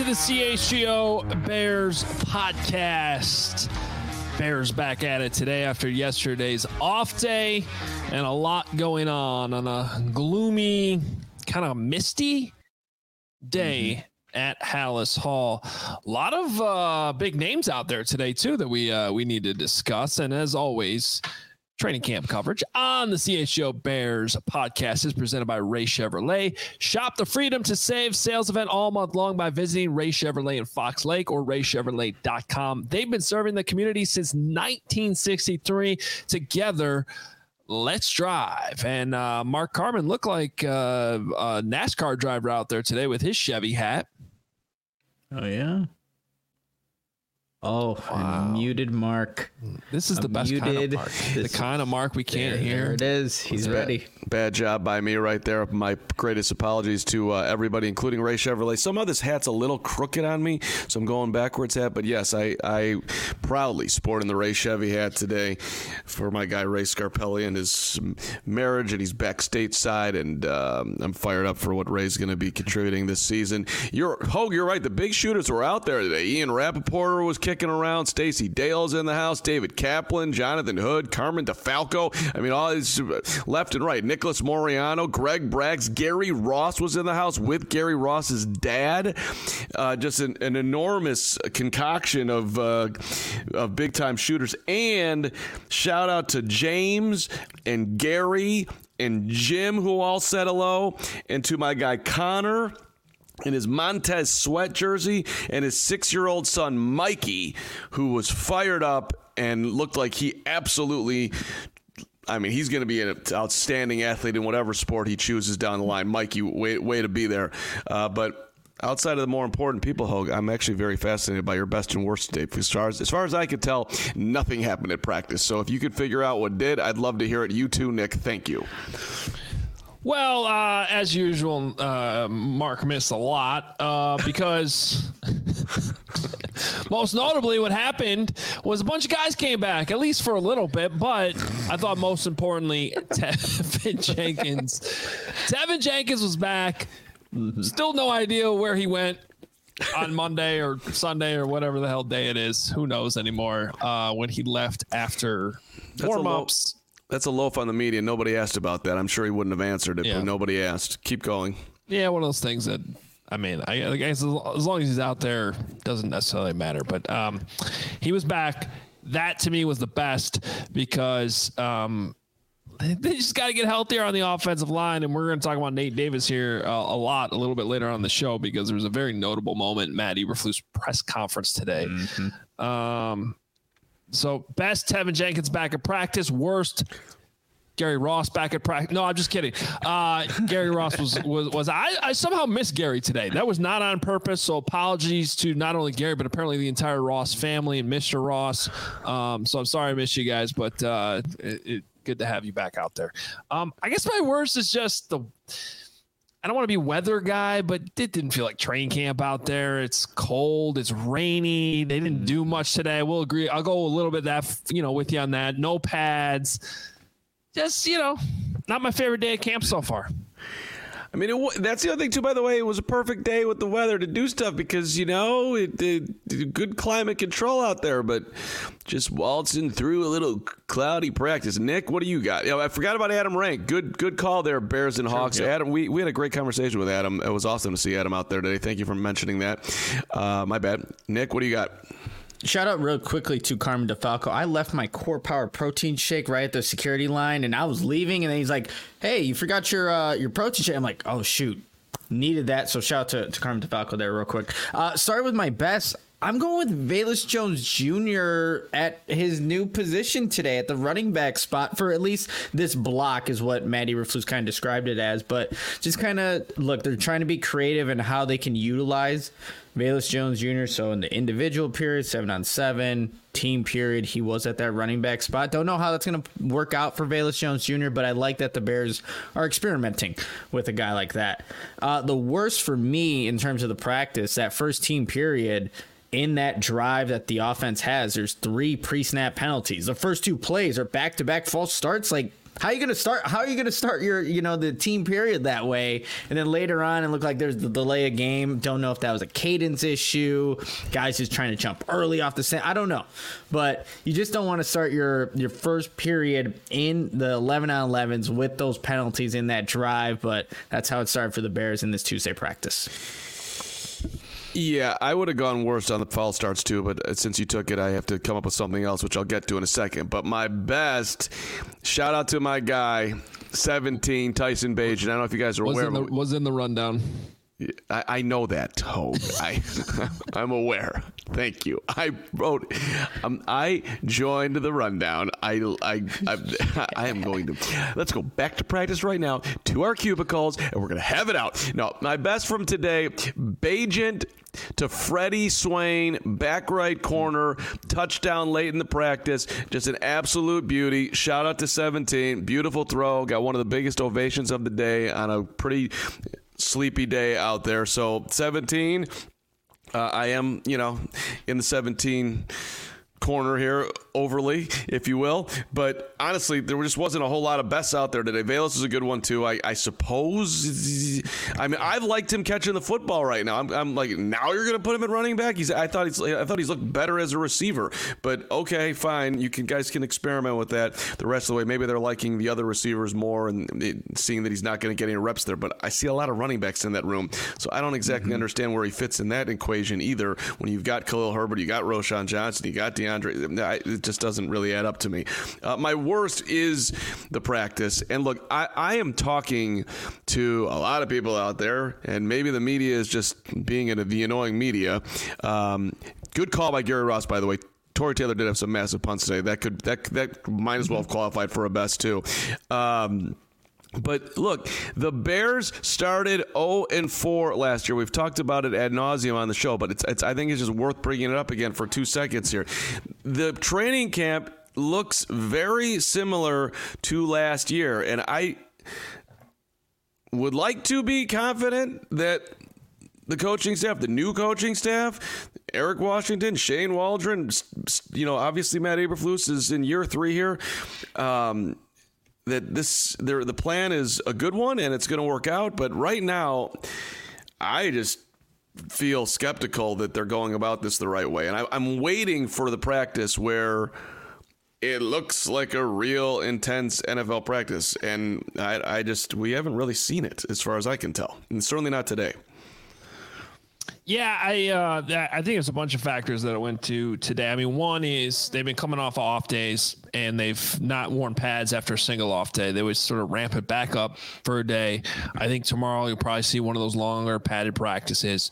to the CHGO Bears podcast. Bears back at it today after yesterday's off day and a lot going on a gloomy, kind of misty day at Halas Hall. A lot of big names out there today, too, that we need to discuss. And as always, training camp coverage on the CHGO Bears podcast is presented by Ray Chevrolet. Shop the freedom to save sales event all month long by visiting Ray Chevrolet in Fox Lake or raychevrolet.com. They've been serving the community since 1963. Together, let's drive. And Mark Carman looked like a NASCAR driver out there today with his Chevy hat. Oh, yeah. Oh, wow. Muted Mark. This is the best kind of Mark. The kind of Mark we can't hear. There it is. He's ready. Bad job by me right there. My greatest apologies to everybody, including Ray Chevrolet. Somehow this hat's a little crooked on me, so I'm going backwards hat. But yes, I proudly sporting the Ray Chevy hat today for my guy Ray Scarpelli and his marriage, and he's back stateside, and I'm fired up for what Ray's going to be contributing this season. You're right. The big shooters were out there today. Ian Rappaport was kicking around. Stacey Dale's in the house. David Kaplan, Jonathan Hood, Carmen DeFalco. I mean, all these left and right. Nicholas Moriano, Greg Braggs, Gary Ross was in the house with Gary Ross's dad. Just an enormous concoction of big-time shooters. And shout out to James and Gary and Jim, who all said hello, and to my guy Connor in his Montez Sweat jersey, and his 6-year-old son Mikey, who was fired up and looked like he absolutely, I mean, he's going to be an outstanding athlete in whatever sport he chooses down the line. Mikey, way to be there. But outside of the more important people, Hogue, I'm actually very fascinated by your best and worst today. As far as I could tell, nothing happened at practice. So if you could figure out what did, I'd love to hear it. You too, Nick. Thank you. Well, as usual, Mark missed a lot because most notably what happened was a bunch of guys came back, at least for a little bit. But I thought most importantly, Tevin Jenkins was back. Still no idea where he went on Monday or Sunday or whatever the hell day it is. Who knows anymore when he left after warm-ups. That's a loaf on the media. Nobody asked about that. I'm sure he wouldn't have answered it, but nobody asked. Keep going. Yeah, one of those things that, I mean, I guess as long as he's out there, doesn't necessarily matter. But he was back. That, to me, was the best because they just got to get healthier on the offensive line. And we're going to talk about Nate Davis here a little bit later on in the show because there was a very notable moment in Matt Eberflus' press conference today. So best, Tevin Jenkins back at practice. Worst, Gary Ross back at practice. No, I'm just kidding. Gary Ross was I somehow missed Gary today. That was not on purpose. So apologies to not only Gary, but apparently the entire Ross family and Mr. Ross. So I'm sorry I missed you guys, but good to have you back out there. I guess my worst is just I don't want to be weather guy, but it didn't feel like training camp out there. It's cold. It's rainy. They didn't do much today. I will agree. I'll go a little bit with you on that. No pads. Just, not my favorite day at camp so far. I mean, that's the other thing, too, by the way. It was a perfect day with the weather to do stuff because, good climate control out there, but just waltzing through a little cloudy practice. Nick, what do you got? I forgot about Adam Rank. Good call there, Bears and Hawks. Sure, yeah. Adam, we had a great conversation with Adam. It was awesome to see Adam out there today. Thank you for mentioning that. My bad. Nick, what do you got? Shout out real quickly to Carmen DeFalco. I left my Core Power protein shake right at the security line, and I was leaving, and then he's like, "Hey, you forgot your protein shake." I'm like, "Oh shoot, needed that." So shout out to Carmen DeFalco there real quick. Start with my best. I'm going with Velus Jones Jr. at his new position today at the running back spot for at least this block is what Matt Eberflus kind of described it as. But just kind of, look, they're trying to be creative in how they can utilize Velus Jones Jr. So in the individual period, 7-on-7, team period, he was at that running back spot. Don't know how that's going to work out for Velus Jones Jr., but I like that the Bears are experimenting with a guy like that. The worst for me in terms of the practice, that first team period, in that drive that the offense has, there's 3 pre-snap penalties. The first 2 plays are back-to-back false starts. Like, How are you gonna start your the team period that way, and then later on it looked like there's the delay of game. Don't know if that was a cadence issue. Guys just trying to jump early off the set. I don't know, but you just don't want to start your first period in the 11-on-11s with those penalties in that drive. But that's how it started for the Bears in this Tuesday practice. Yeah, I would have gone worse on the foul starts too, but since you took it, I have to come up with something else, which I'll get to in a second. But my best, shout out to my guy, 17, Tyson Bagent. I don't know if you guys are aware. Was in the rundown. I know that, Toad. I'm aware. Thank you. I wrote. I joined the rundown. I am going to. Let's go back to practice right now to our cubicles, and we're going to have it out. No, my best from today: Bagent to Freddie Swain, back right corner, touchdown late in the practice. Just an absolute beauty. Shout out to 17. Beautiful throw. Got one of the biggest ovations of the day on a pretty sleepy day out there. So 17, I am, in the 17 corner here, overly, if you will. But honestly, there just wasn't a whole lot of bests out there today. Velus is a good one too, I suppose. I mean, I've liked him catching the football right now. I'm like, now you're going to put him at running back? I thought he's looked better as a receiver. But okay, fine. Guys can experiment with that the rest of the way. Maybe they're liking the other receivers more and seeing that he's not going to get any reps there. But I see a lot of running backs in that room, so I don't exactly understand where he fits in that equation either. When you've got Khalil Herbert, you got Roschon Johnson, you got DeAndre. It just doesn't really add up to me. My worst is the practice. And look, I am talking to a lot of people out there, and maybe the media is just being the annoying media. Good call by Gary Ross, by the way. Torrey Taylor did have some massive punts today. That might as well have qualified for a best too. But look, the Bears started 0-4 last year. We've talked about it ad nauseum on the show, but I think it's just worth bringing it up again for 2 seconds here. The training camp looks very similar to last year, and I would like to be confident that the coaching staff, the new coaching staff, Eric Washington, Shane Waldron, obviously Matt Eberflus is in year 3 here. That the plan is a good one and it's going to work out. But right now, I just feel skeptical that they're going about this the right way. And I'm waiting for the practice where it looks like a real intense NFL practice. And we haven't really seen it as far as I can tell. And certainly not today. Yeah, I think it's a bunch of factors that it went to today. I mean, one is they've been coming off days, and they've not worn pads after a single off day. They would sort of ramp it back up for a day. I think tomorrow you'll probably see one of those longer padded practices.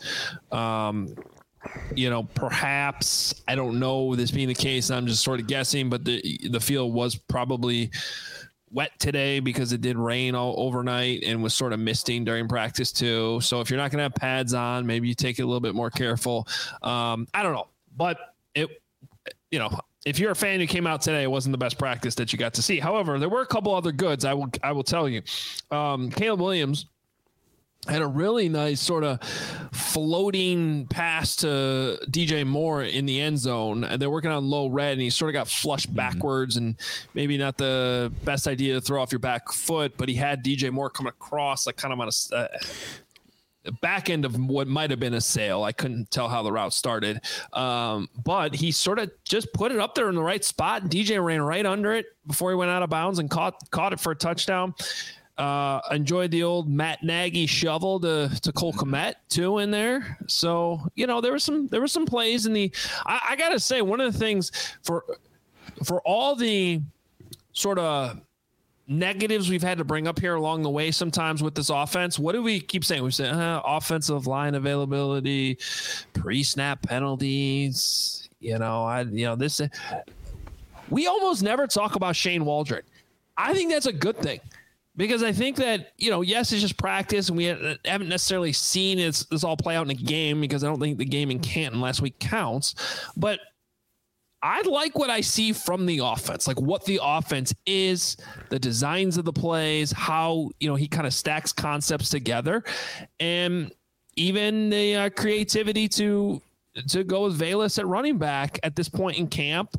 Perhaps, I don't know this being the case, I'm just sort of guessing, but the field was probably wet today because it did rain all overnight and was sort of misting during practice too. So if you're not going to have pads on, maybe you take it a little bit more careful. I don't know, but if you're a fan who came out today, it wasn't the best practice that you got to see. However, there were a couple other goods. I will tell you. Caleb Williams had a really nice sort of floating pass to DJ Moore in the end zone. And they're working on low red, and he sort of got flushed backwards, and maybe not the best idea to throw off your back foot, but he had DJ Moore come across like kind of on a back end of what might have been a sail. I couldn't tell how the route started. But he sort of just put it up there in the right spot. DJ ran right under it before he went out of bounds and caught it for a touchdown. Enjoyed the old Matt Nagy shovel to Cole Kmet too in there. So, there were some plays in the, I gotta say, one of the things for all the sort of negatives we've had to bring up here along the way sometimes with this offense, what do we keep saying? We say offensive line availability, pre-snap penalties, we almost never talk about Shane Waldron. I think that's a good thing. Because I think that, yes, it's just practice, and we haven't necessarily seen this all play out in a game, because I don't think the game in Canton last week counts. But I like what I see from the offense, like what the offense is, the designs of the plays, how, he kind of stacks concepts together, and even the creativity to go with Velus at running back at this point in camp.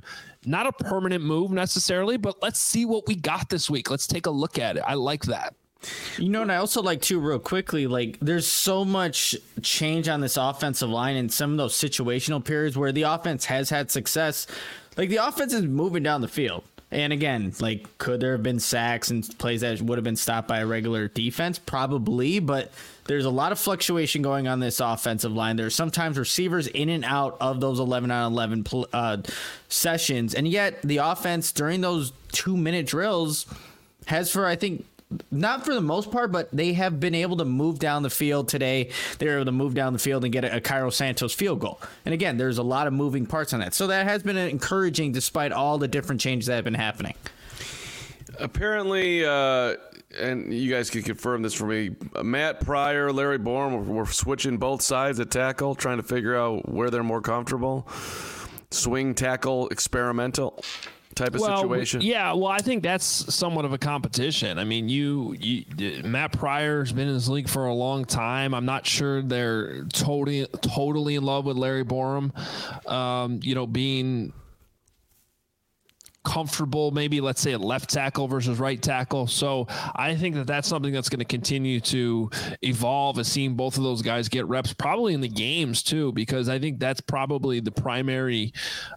Not a permanent move necessarily, but let's see what we got this week. Let's take a look at it. I like that. You know, and I also like too, real quickly, like there's so much change on this offensive line in some of those situational periods where the offense has had success. Like the offense is moving down the field. And again, like, could there have been sacks and plays that would have been stopped by a regular defense? Probably, but there's a lot of fluctuation going on this offensive line. There's sometimes receivers in and out of those 11-on-11 sessions, and yet the offense during those 2-minute drills has, for I think, not for the most part, but they have been able to move down the field today. They were able to move down the field and get a Cairo Santos field goal. And again, there's a lot of moving parts on that. So that has been encouraging despite all the different changes that have been happening. Apparently, and you guys can confirm this for me, Matt Pryor, Larry Borom were switching both sides at tackle, trying to figure out where they're more comfortable. Swing tackle experimental type of situation. Yeah, well, I think that's somewhat of a competition. I mean, Matt Pryor's been in this league for a long time. I'm not sure they're totally in love with Larry Borom. Being comfortable, maybe let's say at left tackle versus right tackle. So I think that's something that's going to continue to evolve, as seeing both of those guys get reps, probably in the games too, because I think that's probably the primary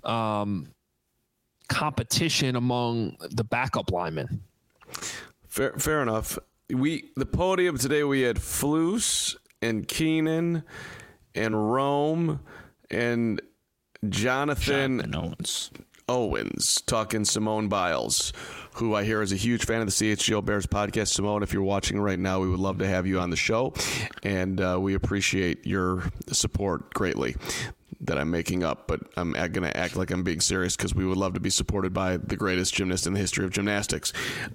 competition among the backup linemen. Fair enough. The podium today, we had Flus and Keenan and Rome and Jonathan Owens talking Simone Biles, who I hear is a huge fan of the CHGO Bears podcast. Simone, if you're watching right now, we would love to have you on the show, and we appreciate your support greatly. That I'm making up, but I'm going to act like I'm being serious because we would love to be supported by the greatest gymnast in the history of gymnastics.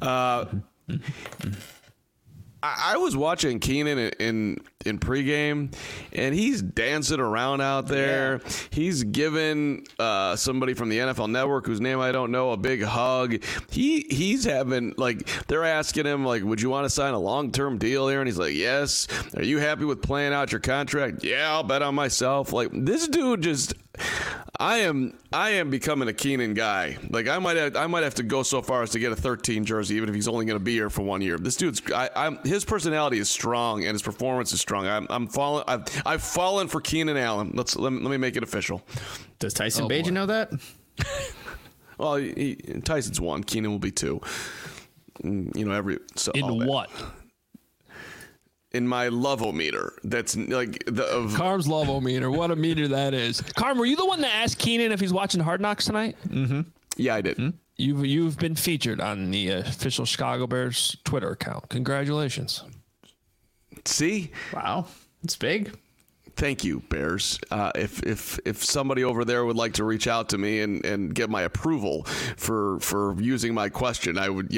I was watching Keenan in pregame, and he's dancing around out there. Yeah. He's giving somebody from the NFL Network, whose name I don't know, a big hug. He's having, like, they're asking him, like, would you want to sign a long-term deal here? And he's like, yes. Are you happy with playing out your contract? Yeah, I'll bet on myself. Like, this dude just... I am becoming a Keenan guy. Like, I might have to go so far as to get a 13 jersey, even if he's only going to be here for 1 year. This dude's his personality is strong and his performance is strong. I've fallen for Keenan Allen. Let me make it official. Does Tyson Bagent know that? Well, Tyson's 1. Keenan will be 2. In what? In my love-o-meter. That's like Carm's love-o-meter. What a meter that is. Carm, were you the one that asked Keenan if he's watching Hard Knocks tonight? Mm-hmm. Yeah, I did. Mm-hmm. You've been featured on the official Chicago Bears Twitter account. Congratulations. See? Wow. It's big. Thank you, Bears. If somebody over there would like to reach out to me and get my approval for using my question, I would,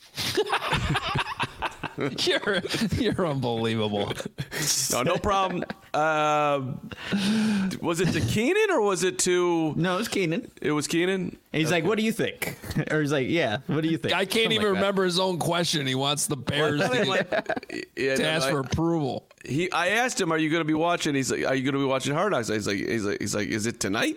You're unbelievable. No problem. Was it to Keenan or was it to... No, it was Keenan. It was Keenan? And he's like, what do you think? Or he's like, yeah, what do you think? I can't even remember his own question. He wants the Bears to ask for approval. I asked him, are you going to be watching? He's like, are you going to be watching Hard Knocks? He's like, is it tonight?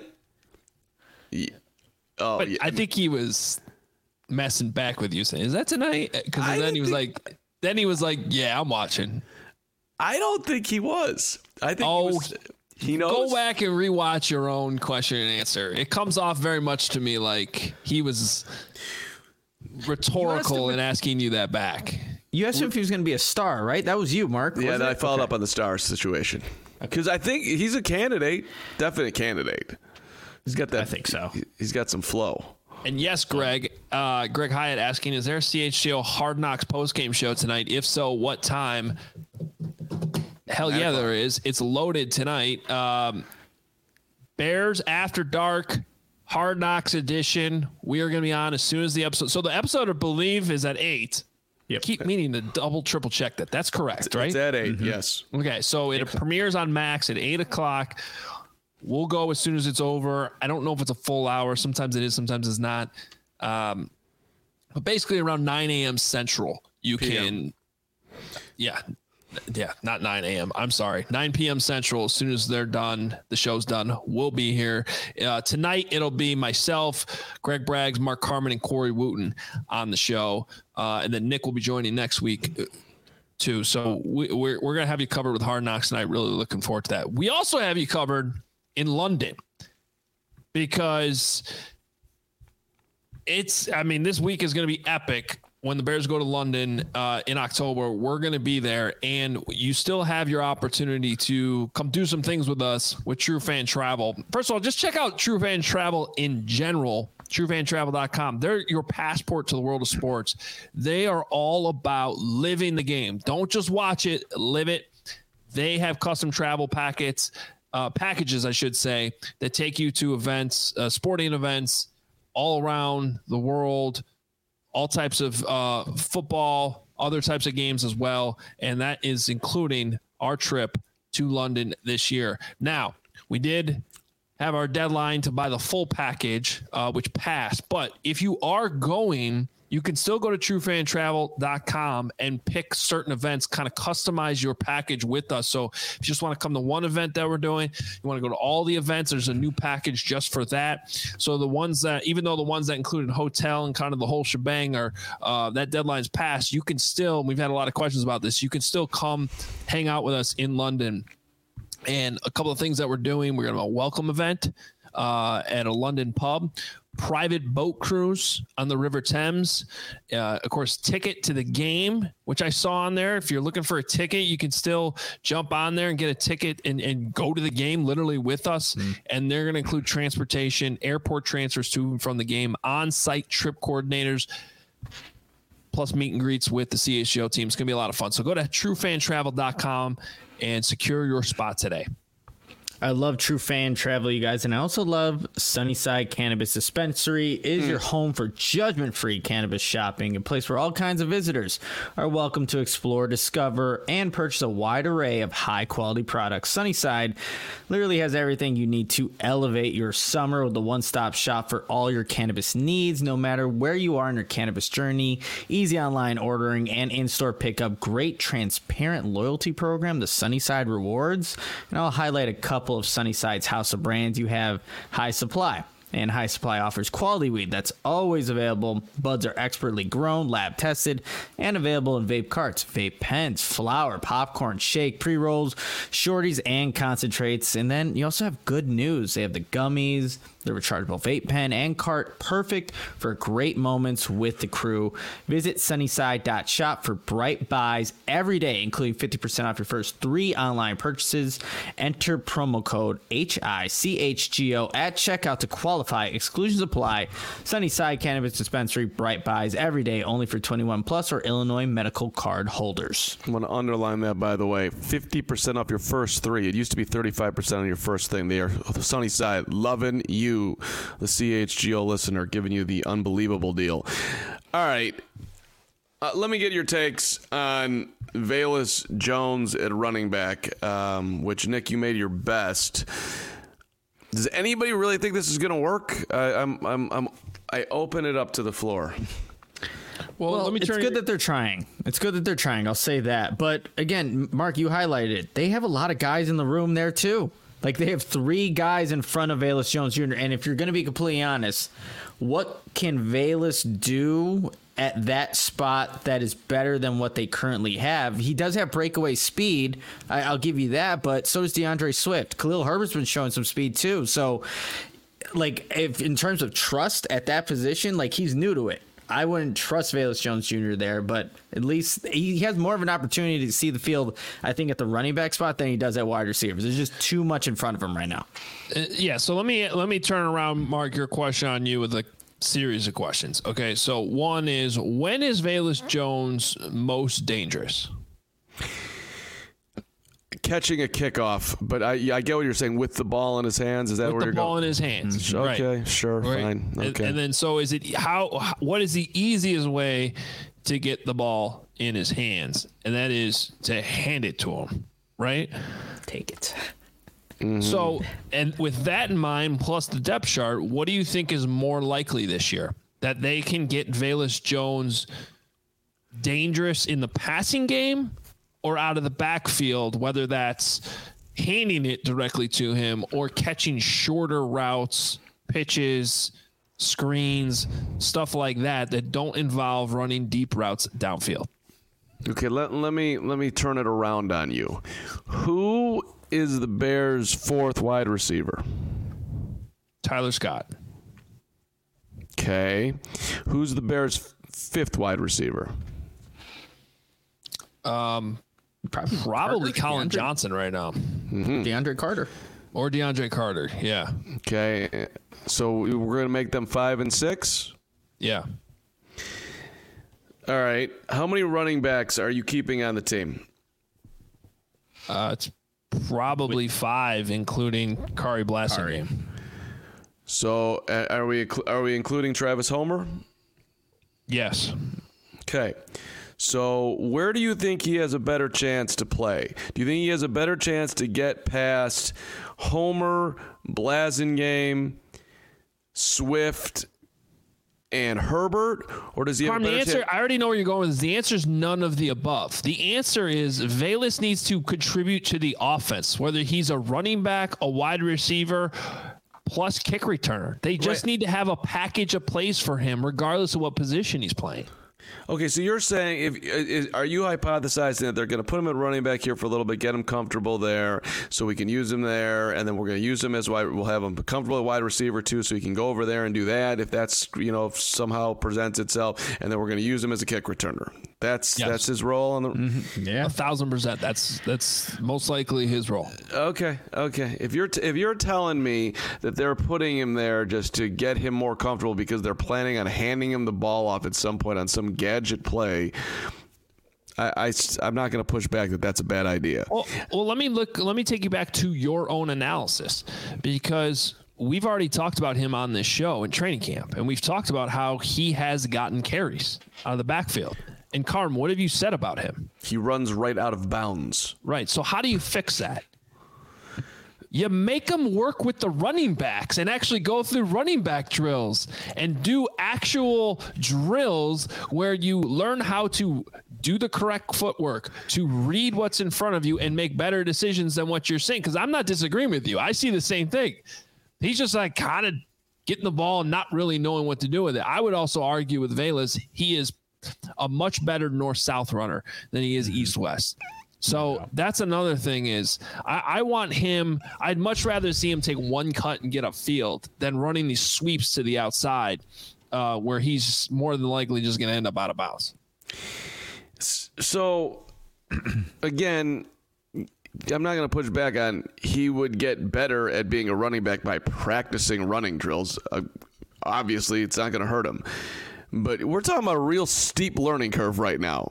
Oh, but yeah. I think he was messing back with you, saying, is that tonight? Because then he was like, yeah, I'm watching. I don't think he was. I think he knows. Go back and rewatch your own question and answer. It comes off very much to me like he was rhetorical in asking you that back. You asked him if he was going to be a star, right? That was you, Mark. Yeah, then I followed up on the star situation. Because I think he's a candidate, definite candidate. He's got that. I think so. He's got some flow. And yes, Greg Hyatt asking, is there a CHGO Hard Knocks postgame show tonight? If so, what time? Hell yeah, there is. It's loaded tonight. Bears After Dark, Hard Knocks edition. We are going to be on as soon as the episode. So the episode, I believe, is at 8. Yep. Keep meaning to double, triple check that. That's correct, right? It's at 8, mm-hmm. Yes. Okay, so it premieres on Max at 8 o'clock. We'll go as soon as it's over. I don't know if it's a full hour. Sometimes it is, sometimes it's not. But basically around 9 a.m. Central, you can, not 9 a.m. I'm sorry, 9 p.m. Central. As soon as they're done, the show's done, we'll be here. Tonight, it'll be myself, Greg Braggs, Mark Carman, and Corey Wooten on the show. And then Nick will be joining next week too. So we're going to have you covered with Hard Knocks tonight. Really looking forward to that. We also have you covered in London because this week is going to be epic. When the Bears go to London in October, we're going to be there, and you still have your opportunity to come do some things with us with True Fan Travel. First of all, just check out True Fan Travel in general, truefantravel.com. They're your passport to the world of sports. They are all about living the game. Don't just watch it, live it. They have custom travel packages, I should say, that take you to events, sporting events all around the world, all types of football, other types of games as well. And that is including our trip to London this year. Now, we did have our deadline to buy the full package, which passed. But if you are going, you can still go to truefantravel.com and pick certain events, kind of customize your package with us. So if you just want to come to one event that we're doing, you want to go to all the events, there's a new package just for that. So the ones that, even though the ones that included hotel and kind of the whole shebang are, that deadline's passed, you can still, we've had a lot of questions about this, you can still come hang out with us in London. And a couple of things that we're doing, we're going to have a welcome event at a London pub, private boat cruise on the River Thames, of course, ticket to the game, which I saw on there. If you're looking for a ticket, you can still jump on there and get a ticket and go to the game literally with us. And they're going to include transportation, airport transfers to and from the game, on-site trip coordinators, plus meet and greets with the CHGO team. It's going to be a lot of fun. So go to truefantravel.com and secure your spot today. I love True Fan Travel, you guys, and I also love Sunnyside Cannabis Dispensary. It is your home for judgment-free cannabis shopping, a place where all kinds of visitors are welcome to explore, discover, and purchase a wide array of high-quality products. Sunnyside literally has everything you need to elevate your summer with the one-stop shop for all your cannabis needs, no matter where you are in your cannabis journey. Easy online ordering and in-store pickup. Great transparent loyalty program, the Sunnyside Rewards. And I'll highlight a couple of Sunnyside's house of brands. You have High Supply, and High Supply offers quality weed that's always available. Buds are expertly grown, lab tested, and available in vape carts, vape pens, flour, popcorn, shake, pre-rolls, shorties, and concentrates. And then you also have good news. They have the gummies, the rechargeable vape pen and cart, perfect for great moments with the crew. Visit sunnyside.shop for bright buys every day, including 50% off your first 3 online purchases. Enter promo code HICHGO at checkout to qualify. Exclusions apply. Sunnyside Cannabis Dispensary, bright buys every day, only for 21 plus or Illinois medical card holders. I want to underline that, by the way. 50% off your first 3. It used to be 35% on your first thing. They are Sunnyside, loving you, the CHGO listener, giving you the unbelievable deal. All right. Let me get your takes on Velus Jones at running back, which, Nick, you made your best. Does anybody really think this is going to work? I open it up to the floor. Well, it's good that they're trying. It's good that they're trying. I'll say that. But again, Mark, you highlighted it. They have a lot of guys in the room there too. Like, they have 3 guys in front of Velus Jones Jr. And if you're going to be completely honest, what can Velus do at that spot that is better than what they currently have? He does have breakaway speed. I'll give you that. But so does DeAndre Swift. Khalil Herbert's been showing some speed too. So, like, if in terms of trust at that position, like, he's new to it. I wouldn't trust Velus Jones Jr. there, but at least he has more of an opportunity to see the field, I think, at the running back spot than he does at wide receivers. There's just too much in front of him right now. Yeah, so let me turn around, Mark, your question on you with a series of questions. Okay, so one is, when is Velus Jones most dangerous? Catching a kickoff, but I get what you're saying, with the ball in his hands. Is that where you're going? With the ball in his hands. Okay, right. Sure, right. Fine. Okay. And then, so is it what is the easiest way to get the ball in his hands? And that is to hand it to him, right? Take it. Mm-hmm. So, and with that in mind, plus the depth chart, what do you think is more likely this year? That they can get Velus Jones dangerous in the passing game, or out of the backfield, whether that's handing it directly to him or catching shorter routes, pitches, screens, stuff like that don't involve running deep routes downfield. Okay, let me turn it around on you. Who is the Bears' fourth wide receiver? Tyler Scott. Okay. Who's the Bears' fifth wide receiver? Probably Colin Johnson right now. DeAndre Carter. Or DeAndre Carter, yeah. Okay. So we're going to make them 5 and 6? Yeah. All right. How many running backs are you keeping on the team? It's probably 5, including Kari Blasingame. So are we including Travis Homer? Yes. Okay. So where do you think he has a better chance to play? Do you think he has a better chance to get past Homer, Blasingame, Swift, and Herbert, or does he have a better chance? I already know where you're going with this. The answer is none of the above. The answer is Velus needs to contribute to the offense, whether he's a running back, a wide receiver, plus kick returner. They just need to have a package of plays for him, regardless of what position he's playing. Okay, so you're saying, are you hypothesizing that they're going to put him at running back here for a little bit, get him comfortable there, so we can use him there, and then we're going to use him as wide. We'll have him comfortable at wide receiver too, so he can go over there and do that if that's if somehow presents itself, and then we're going to use him as a kick returner. That's his role on the. Mm-hmm. Yeah, 1,000%. That's most likely his role. Okay. If you're telling me that they're putting him there just to get him more comfortable because they're planning on handing him the ball off at some point on some gadget play, I'm not going to push back that that's a bad idea. Well, let me take you back to your own analysis, because we've already talked about him on this show in training camp, and we've talked about how he has gotten carries out of the backfield. And Carm, what have you said about him? He runs right out of bounds. Right. So how do you fix that? You make them work with the running backs and actually go through running back drills and do actual drills where you learn how to do the correct footwork, to read what's in front of you and make better decisions than what you're saying. Because I'm not disagreeing with you. I see the same thing. He's just like kind of getting the ball and not really knowing what to do with it. I would also argue with Velus, he is a much better north-south runner than he is east-west. So that's another thing is I want him – I'd much rather see him take one cut and get upfield than running these sweeps to the outside where he's more than likely just going to end up out of bounds. So, again, I'm not going to push back on he would get better at being a running back by practicing running drills. Obviously, it's not going to hurt him. But we're talking about a real steep learning curve right now.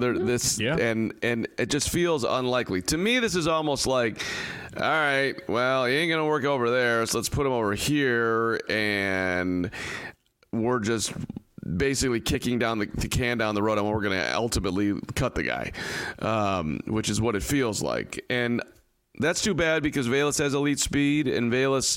And it just feels unlikely. To me, this is almost like, all right, well, he ain't going to work over there, so let's put him over here, and we're just basically kicking down the can down the road, and we're going to ultimately cut the guy, which is what it feels like. And that's too bad because Velus has elite speed, and Velus,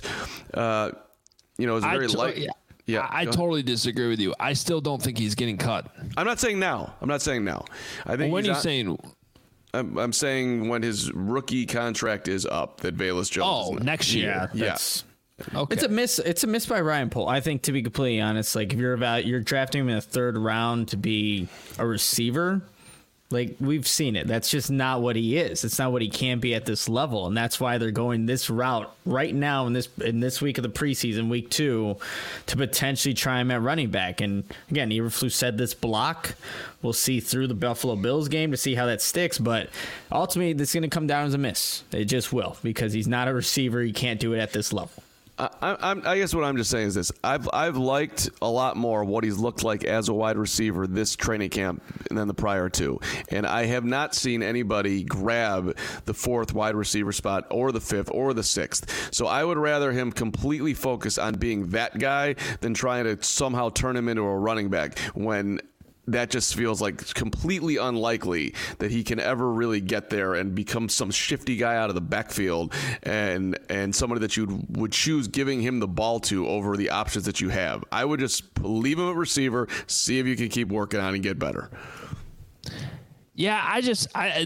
is very light. Yeah, I totally disagree with you. I still don't think he's getting cut. I'm not saying now. I think when are you saying? I'm saying when his rookie contract is up, that Velus Jones. Oh, next year. Yeah. Okay. It's a miss by Ryan Pohl. I think, to be completely honest, like if you're drafting him in the third round to be a receiver, like we've seen it. That's just not what he is. It's not what he can be at this level, and that's why they're going this route right now in this week of the preseason, week 2, to potentially try him at running back. And again, Eberflus said this block. We'll see through the Buffalo Bills game to see how that sticks, but ultimately, this is going to come down as a miss. It just will, because he's not a receiver. He can't do it at this level. I guess what I'm just saying is this. I've liked a lot more what he's looked like as a wide receiver this training camp than the prior two. And I have not seen anybody grab the fourth wide receiver spot or the fifth or the sixth. So I would rather him completely focus on being that guy than trying to somehow turn him into a running back when that just feels like completely unlikely that he can ever really get there and become some shifty guy out of the backfield and somebody that you would choose giving him the ball to over the options that you have. I would just leave him at receiver, see if you can keep working on and get better. Yeah,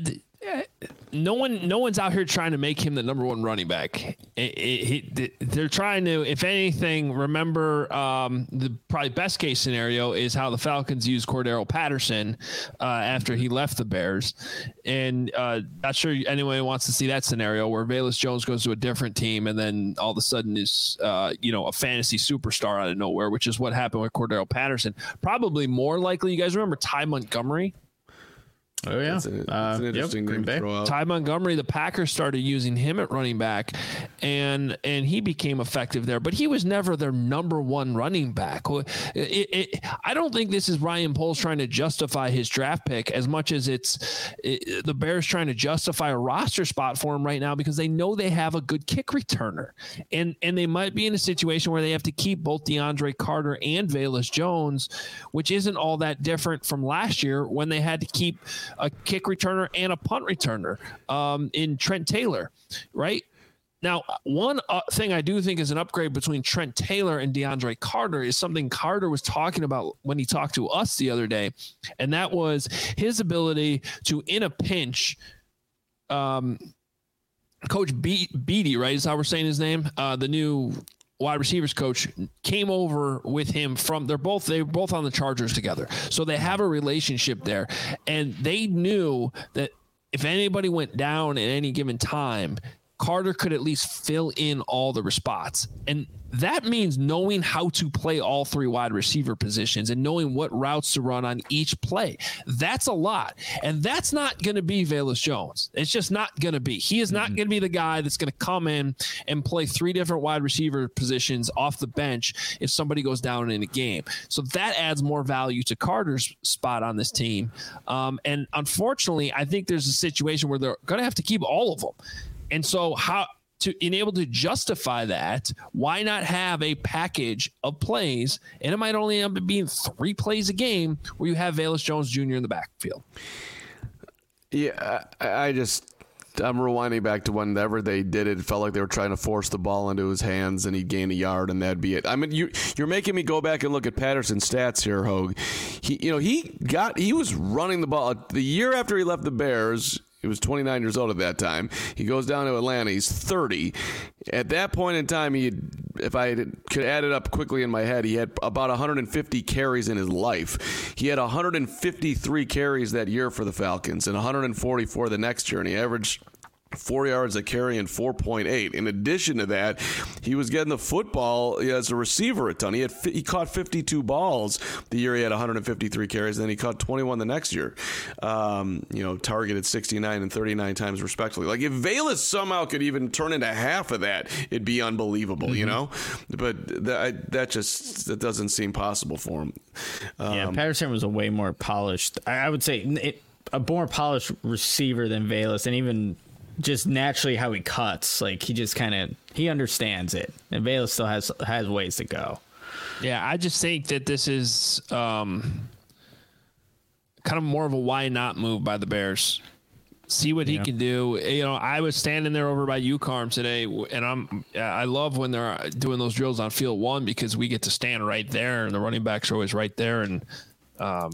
no one's out here trying to make him the number one running back. They're trying to, if anything, remember the probably best case scenario is how the Falcons used Cordero Patterson after he left the Bears. And not sure anyone wants to see that scenario where Velus Jones goes to a different team and then all of a sudden is, a fantasy superstar out of nowhere, which is what happened with Cordero Patterson. Probably more likely, you guys remember Ty Montgomery? Oh yeah, it's an interesting name to throw out. Ty Montgomery, the Packers started using him at running back, and he became effective there. But he was never their number one running back. I don't think this is Ryan Poles trying to justify his draft pick as much as it's the Bears trying to justify a roster spot for him right now because they know they have a good kick returner, and they might be in a situation where they have to keep both DeAndre Carter and Velus Jones, which isn't all that different from last year when they had to keep a kick returner and a punt returner in Trent Taylor, right? Now, one thing I do think is an upgrade between Trent Taylor and DeAndre Carter is something Carter was talking about when he talked to us the other day, and that was his ability to, in a pinch, Coach Beatty, right, is how we're saying his name, the new wide receivers coach, came over with him they were both on the Chargers together. So they have a relationship there. And they knew that if anybody went down at any given time, Carter could at least fill in all the spots. And that means knowing how to play all three wide receiver positions and knowing what routes to run on each play. That's a lot. And that's not going to be Velus Jones. It's just not going to be. He is not going to be the guy that's going to come in and play three different wide receiver positions off the bench if somebody goes down in a game. So that adds more value to Carter's spot on this team. And unfortunately, I think there's a situation where they're going to have to keep all of them. And so to enable to justify that, why not have a package of plays? And it might only end up being 3 plays a game where you have Velus Jones Jr. in the backfield. Yeah, I'm rewinding back to whenever they did it. It felt like they were trying to force the ball into his hands and he'd gain a yard and that'd be it. I mean, you're making me go back and look at Patterson's stats here, Hogue. He was running the ball the year after he left the Bears. He was 29 years old at that time. He goes down to Atlanta. He's 30. At that point in time, if I could add it up quickly in my head, he had about 150 carries in his life. He had 153 carries that year for the Falcons and 144 the next year, and he averaged 4 yards a carry and 4.8. In addition to that, he was getting the football as a receiver a ton. He caught 52 balls the year he had 153 carries, and then he caught 21 the next year. Targeted 69 and 39 times respectively. Like if Velus somehow could even turn into half of that, it'd be unbelievable, But that doesn't seem possible for him. Patterson was a way more polished. I would say a more polished receiver than Velus, and even just naturally how he cuts, like he understands it, and Velus still has ways to go. Yeah, I just think that this is kind of more of a why not move by the Bears. See what he can do. I was standing there over by UCarm today, and I love when they're doing those drills on field 1 because we get to stand right there, and the running backs are always right there, and all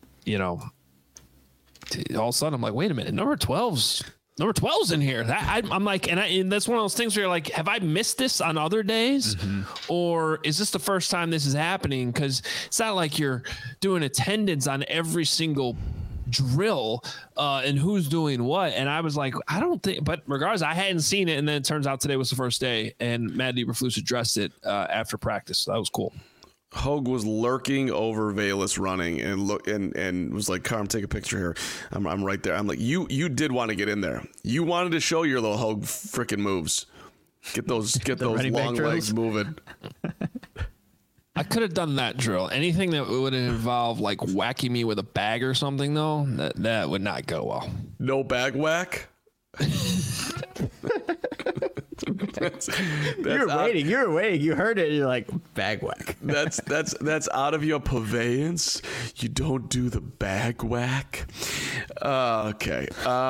of a sudden I'm like, wait a minute, number 12's in here. I'm like, and that's one of those things where you're like, have I missed this on other days? Or is this the first time this is happening? Because it's not like you're doing attendance on every single drill and who's doing what. And I was like, I don't think, but regardless, I hadn't seen it. And then it turns out today was the first day, and Matt Eberflus addressed it after practice. So that was cool. Hogue was lurking over Velus running and was like, Carm, take a picture here. I'm right there. I'm like, you did want to get in there. You wanted to show your little Hogue freaking moves. Get those long legs moving. I could have done that drill. Anything that would involve like whacking me with a bag or something, though, that would not go well. No bag whack? You were waiting. You heard it. You're like, bag whack. That's out of your purveyance. You don't do the bag whack. Okay.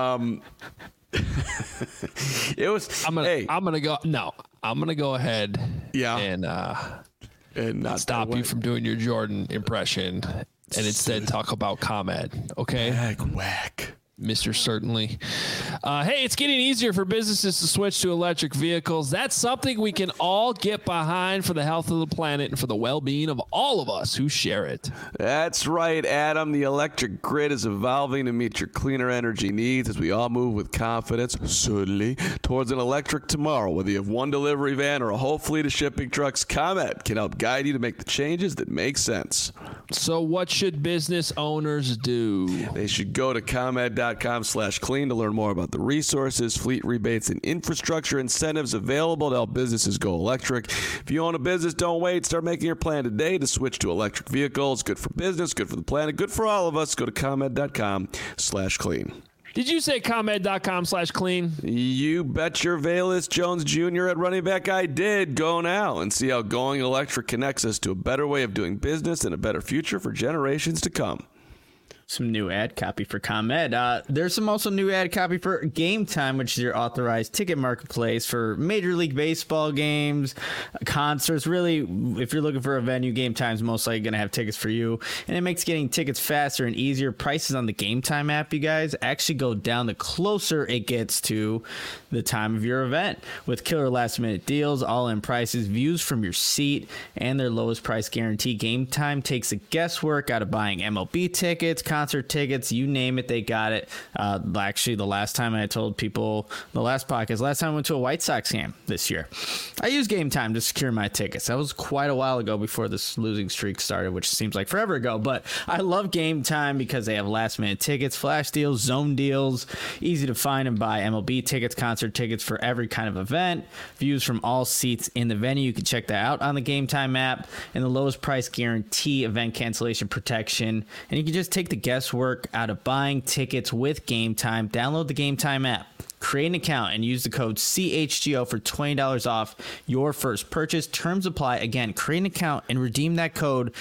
It was. I'm gonna go ahead. Yeah. And not stop you from doing your Jordan impression, and instead talk about ComEd. Okay. Bag whack. Mr. Certainly. Hey, it's getting easier for businesses to switch to electric vehicles. That's something we can all get behind for the health of the planet and for the well-being of all of us who share it. That's right, Adam. The electric grid is evolving to meet your cleaner energy needs as we all move with confidence, certainly, towards an electric tomorrow. Whether you have one delivery van or a whole fleet of shipping trucks, ComEd can help guide you to make the changes that make sense. So what should business owners do? They should go to ComEd.com/clean to learn more about the resources, fleet rebates, and infrastructure incentives available to help businesses go electric. If you own a business, don't wait. Start making your plan today to switch to electric vehicles. Good for business, good for the planet, good for all of us. Go to ComEd.com/clean. Did you say ComEd.com/clean? You bet your Velus Jones Jr. at running back. I did. Go now and see how going electric connects us to a better way of doing business and a better future for generations to come. Some new ad copy for ComEd. There's some also new ad copy for Game Time, which is your authorized ticket marketplace for Major League Baseball games, concerts. Really, if you're looking for a venue, Game Time's most likely going to have tickets for you. And it makes getting tickets faster and easier. Prices on the Game Time app, you guys, actually go down the closer it gets to the time of your event. With killer last-minute deals, all-in prices, views from your seat, and their lowest price guarantee, Game Time takes the guesswork out of buying MLB tickets, concert tickets, you name it, they got it. Actually, the last time I told people, last time I went to a White Sox game this year, I used Game Time to secure my tickets. That was quite a while ago before this losing streak started, which seems like forever ago, but I love Game Time because they have last minute tickets, flash deals, zone deals, easy to find and buy MLB tickets, concert tickets for every kind of event, views from all seats in the venue. You can check that out on the Game Time app, and the lowest price guarantee, event cancellation protection, and you can just take the guesswork out of buying tickets with Game Time. Download the Game Time app, create an account, and use the code CHGO for $20 off your first purchase. Terms apply. Again, create an account and redeem that code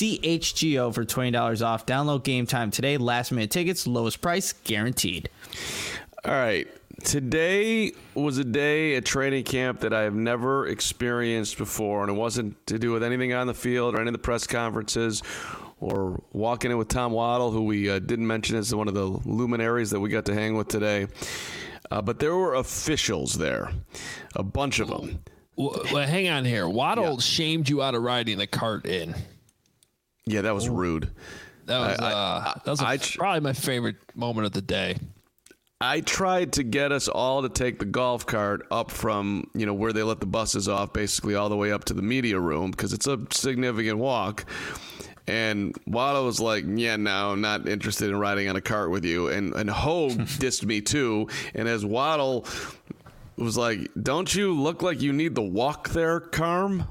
CHGO for $20 off. Download Game Time today. Last minute tickets, lowest price guaranteed. All right. Today was a day at training camp that I have never experienced before, and it wasn't to do with anything on the field or any of the press conferences or walking in with Tom Waddle, who we didn't mention as one of the luminaries that we got to hang with today. But there were officials there, a bunch of them. Well, hang on here. Waddle shamed you out of riding the cart in. Yeah, that was rude. That was probably my favorite moment of the day. I tried to get us all to take the golf cart up from, where they let the buses off, basically all the way up to the media room, because it's a significant walk. And Waddle was like, yeah, no, I'm not interested in riding on a cart with you. And Hogue dissed me too. And as Waddle was like, don't you look like you need the walk there, Carm?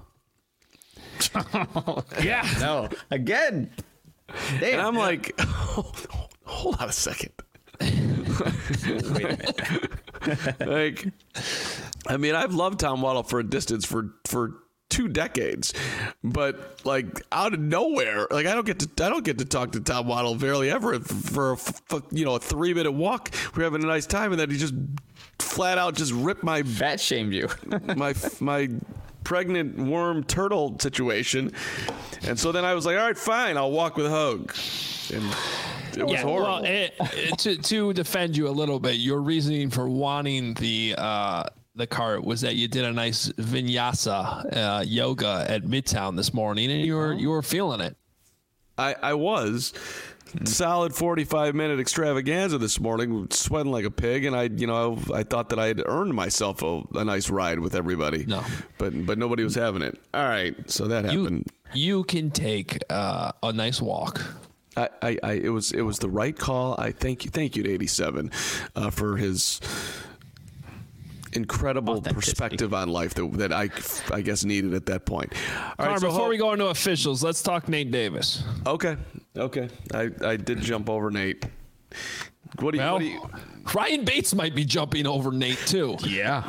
Yeah. No. Again. Damn. And I'm like, hold on a second. Wait a minute. I've loved Tom Waddle for a distance for 2 decades, but out of nowhere, I don't get to talk to Tom Waddle barely ever for a 3-minute walk. We're having a nice time, and then he just flat out just ripped my fat shamed you, my pregnant worm turtle situation, and so then I was like, all right, fine, I'll walk with Hogue, and it was horrible. Well, to defend you a little bit, your reasoning for wanting the cart was that you did a nice vinyasa yoga at Midtown this morning, and you were feeling it. I was. Solid 45-minute extravaganza this morning, sweating like a pig, and I thought that I had earned myself a nice ride with everybody. No, but nobody was having it. All right, so that happened. You can take a nice walk. It was the right call. I thank you to 87 for his incredible perspective on life that I guess needed at that point. All right, before we go into officials, let's talk Nate Davis. Okay. I did jump over Nate. What do you Ryan Bates might be jumping over Nate too. Yeah.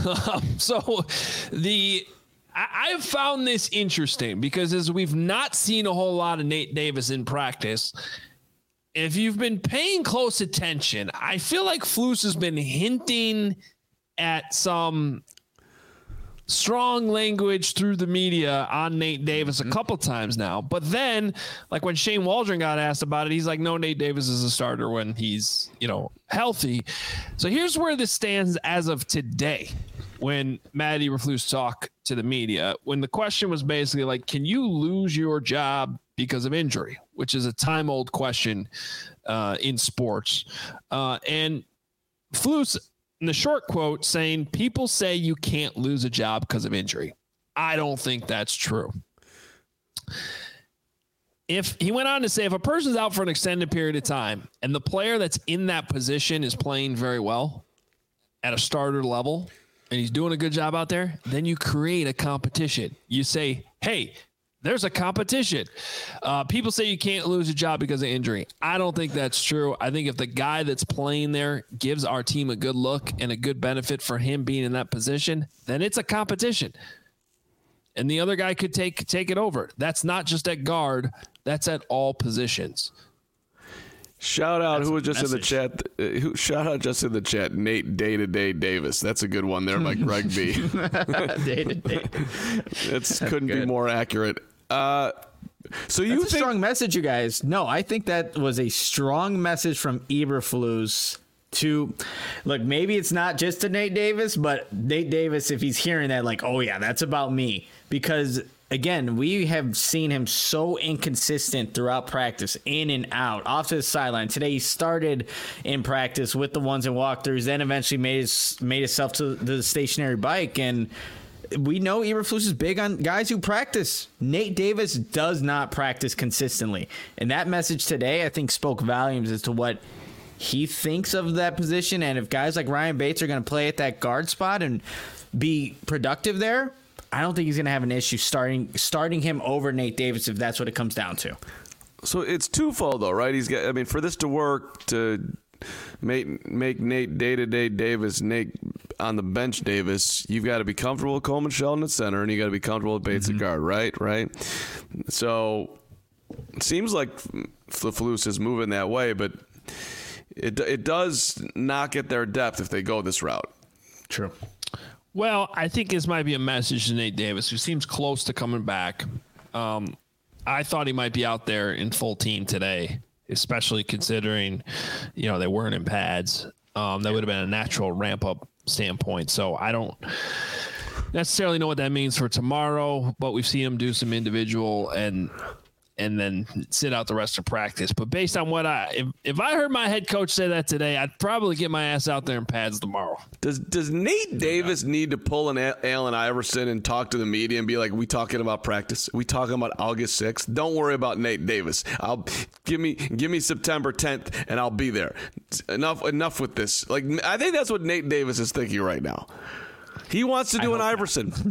I've found this interesting because as we've not seen a whole lot of Nate Davis in practice, if you've been paying close attention, I feel like Flus has been hinting at some strong language through the media on Nate Davis a couple times now. But then, like when Shane Waldron got asked about it, he's like, no, Nate Davis is a starter when he's, healthy. So here's where this stands as of today when Matt Eberflus talked to the media, when the question was basically like, can you lose your job because of injury, which is a time-old question in sports. And Flus, in the short quote, saying, people say you can't lose a job because of injury. I don't think that's true. If he went on to say, if a person's out for an extended period of time and the player that's in that position is playing very well at a starter level and he's doing a good job out there, then you create a competition. You say, hey, there's a competition. People say you can't lose a job because of injury. I don't think that's true. I think if the guy that's playing there gives our team a good look and a good benefit for him being in that position, then it's a competition. And the other guy could take it over. That's not just at guard. That's at all positions. Shout out who was just in the chat. Shout out just in the chat. Nate Day-to-Day Davis. That's a good one there by Greg B. Day-to-day. It couldn't be more accurate. So you That's a strong message, you guys. No, I think that was a strong message from Eberflus to, look, maybe it's not just to Nate Davis, but Nate Davis, if he's hearing that, like, oh yeah, that's about me. Because again, we have seen him so inconsistent throughout practice, in and out, off to the sideline. Today he started in practice with the ones and walkthroughs, then eventually made himself to the stationary bike. And we know Eberflus is big on guys who practice. Nate Davis does not practice consistently. And that message today, I think, spoke volumes as to what he thinks of that position. And if guys like Ryan Bates are going to play at that guard spot and be productive there, I don't think he's going to have an issue starting him over Nate Davis if that's what it comes down to. So it's twofold, though, right? For this to work, to make Nate Day-to-Day Davis, Nate on the bench Davis, you've got to be comfortable with Coleman Shelton at center, and you got to be comfortable with Bates at guard, right? So it seems like Flus is moving that way, but it does not get their depth if they go this route. True. Well, I think this might be a message to Nate Davis, who seems close to coming back. I thought he might be out there in full team today, especially considering, they weren't in pads. That would have been a natural ramp-up standpoint. So I don't necessarily know what that means for tomorrow, but we've seen him do some individual and then sit out the rest of practice. But based on what if I heard my head coach say that today, I'd probably get my ass out there in pads tomorrow. Does Nate Davis need to pull an Allen Iverson and talk to the media and be like, we talking about practice? We talking about August 6th? Don't worry about Nate Davis. Give me September 10th and I'll be there. Enough with this. Like, I think that's what Nate Davis is thinking right now. He wants to do an Iverson.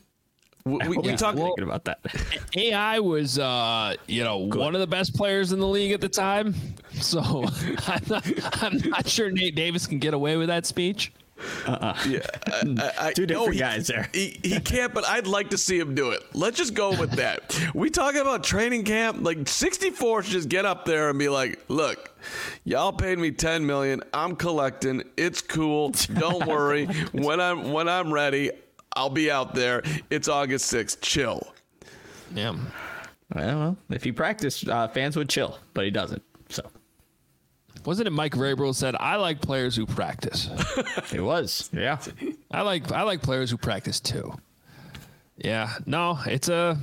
We talked about that. AI was, one of the best players in the league at the time. So I'm not sure Nate Davis can get away with that speech. Yeah, two different guys there. He can't, but I'd like to see him do it. Let's just go with that. We talking about training camp. Like 64 should just get up there and be like, look, y'all paid me $10 million. I'm collecting. It's cool. Don't worry. When I'm ready, I'll be out there. It's August 6th. Chill. Yeah. Well, if he practiced, fans would chill, but he doesn't. So, wasn't it Mike Vrabel said, "I like players who practice"? It was. Yeah. I like players who practice too. Yeah. No, it's a.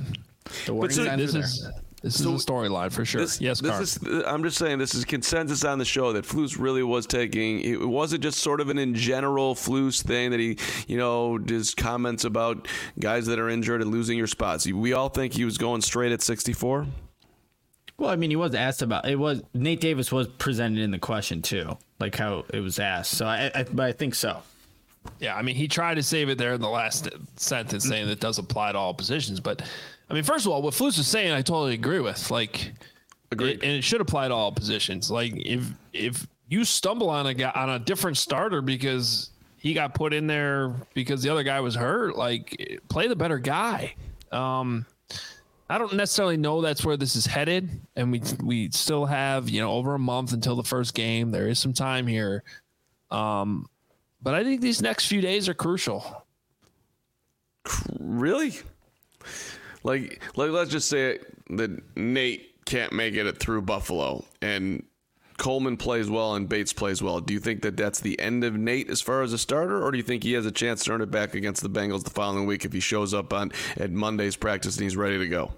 This is a storyline for sure. I'm just saying this is consensus on the show that Flus really was taking. It wasn't just sort of an in general Flus thing that he, just comments about guys that are injured and losing your spots. We all think he was going straight at 64. Well, I mean, he was asked about it. Was Nate Davis was presented in the question too, like how it was asked. So but I think so. Yeah, I mean, he tried to save it there in the last sentence, saying that does apply to all positions, but. I mean, first of all, what Flus is saying, I totally agree with. And it should apply to all positions. Like, if you stumble on a different starter because he got put in there because the other guy was hurt, like, play the better guy. I don't necessarily know that's where this is headed, and we still have over a month until the first game. There is some time here, but I think these next few days are crucial. Really? Like let's just say that Nate can't make it through Buffalo and Coleman plays well and Bates plays well. Do you think that that's the end of Nate as far as a starter, or do you think he has a chance to earn it back against the Bengals the following week if he shows up at Monday's practice and he's ready to go?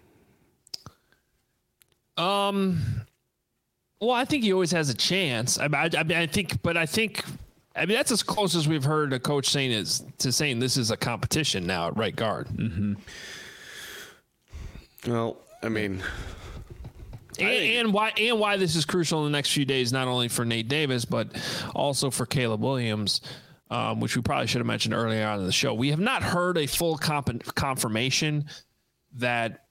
Well, I think he always has a chance. I think that's as close as we've heard a coach saying this is a competition now at right guard. Mm-hmm. Well, I mean, and why this is crucial in the next few days, not only for Nate Davis but also for Caleb Williams, which we probably should have mentioned earlier on in the show. We have not heard a full confirmation that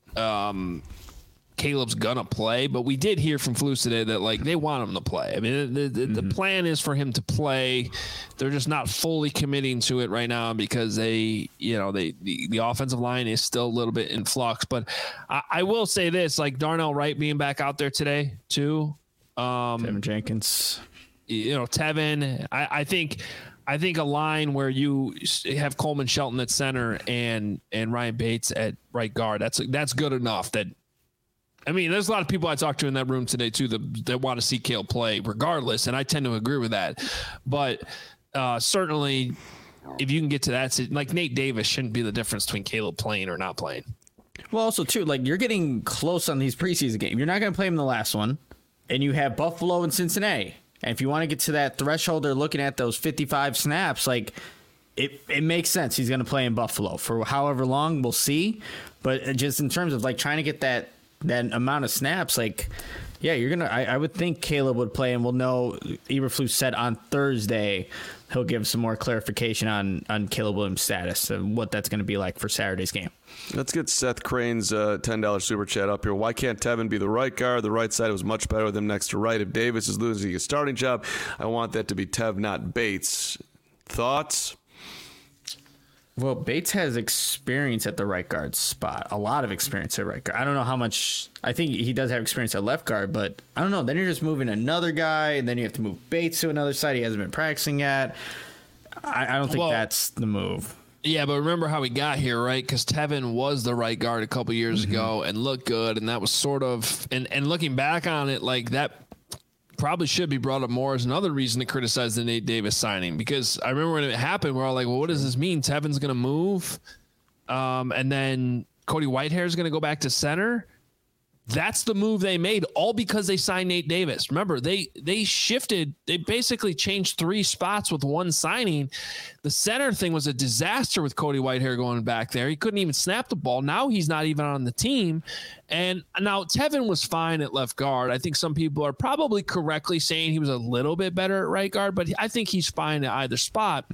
Caleb's gonna play, but we did hear from Flus today that like they want him to play. I mean, the plan is for him to play. They're just not fully committing to it right now because the offensive line is still a little bit in flux. But I will say this: like Darnell Wright being back out there today too. Tevin Jenkins, Tevin. I think a line where you have Coleman Shelton at center and Ryan Bates at right guard. That's good enough. I mean, there's a lot of people I talked to in that room today, too, that want to see Caleb play regardless, and I tend to agree with that. But certainly, if you can get to that, like Nate Davis shouldn't be the difference between Caleb playing or not playing. Well, also, too, like you're getting close on these preseason games. You're not going to play him in the last one, and you have Buffalo and Cincinnati. And if you want to get to that threshold, they're looking at those 55 snaps, like it makes sense. He's going to play in Buffalo for however long, we'll see. But just in terms of like trying to get that amount of snaps, like, yeah, you're gonna. I would think Caleb would play, and we'll know. Eberflus said on Thursday he'll give some more clarification on Caleb Williams' status and what that's going to be like for Saturday's game. Let's get Seth Crane's $10 super chat up here. Why can't Tevin be the right guard? The right side was much better with him next to right. If Davis is losing his starting job, I want that to be Tev, not Bates. Thoughts? Well, Bates has experience at the right guard spot. A lot of experience at right guard. I don't know how much. I think he does have experience at left guard, but I don't know. Then you're just moving another guy, and then you have to move Bates to another side he hasn't been practicing yet. I don't think that's the move. Yeah, but remember how he got here, right? Because Tevin was the right guard a couple years ago and looked good, and that was sort of – and looking back on it, like that – probably should be brought up more as another reason to criticize the Nate Davis signing, because I remember when it happened, we're all like, well, what does this mean? Tevin's going to move, and then Cody Whitehair is going to go back to center. That's the move they made, all because they signed Nate Davis. Remember, they shifted. They basically changed 3 spots with one signing. The center thing was a disaster with Cody Whitehair going back there. He couldn't even snap the ball. Now he's not even on the team. And now Tevin was fine at left guard. I think some people are probably correctly saying he was a little bit better at right guard, but I think he's fine at either spot.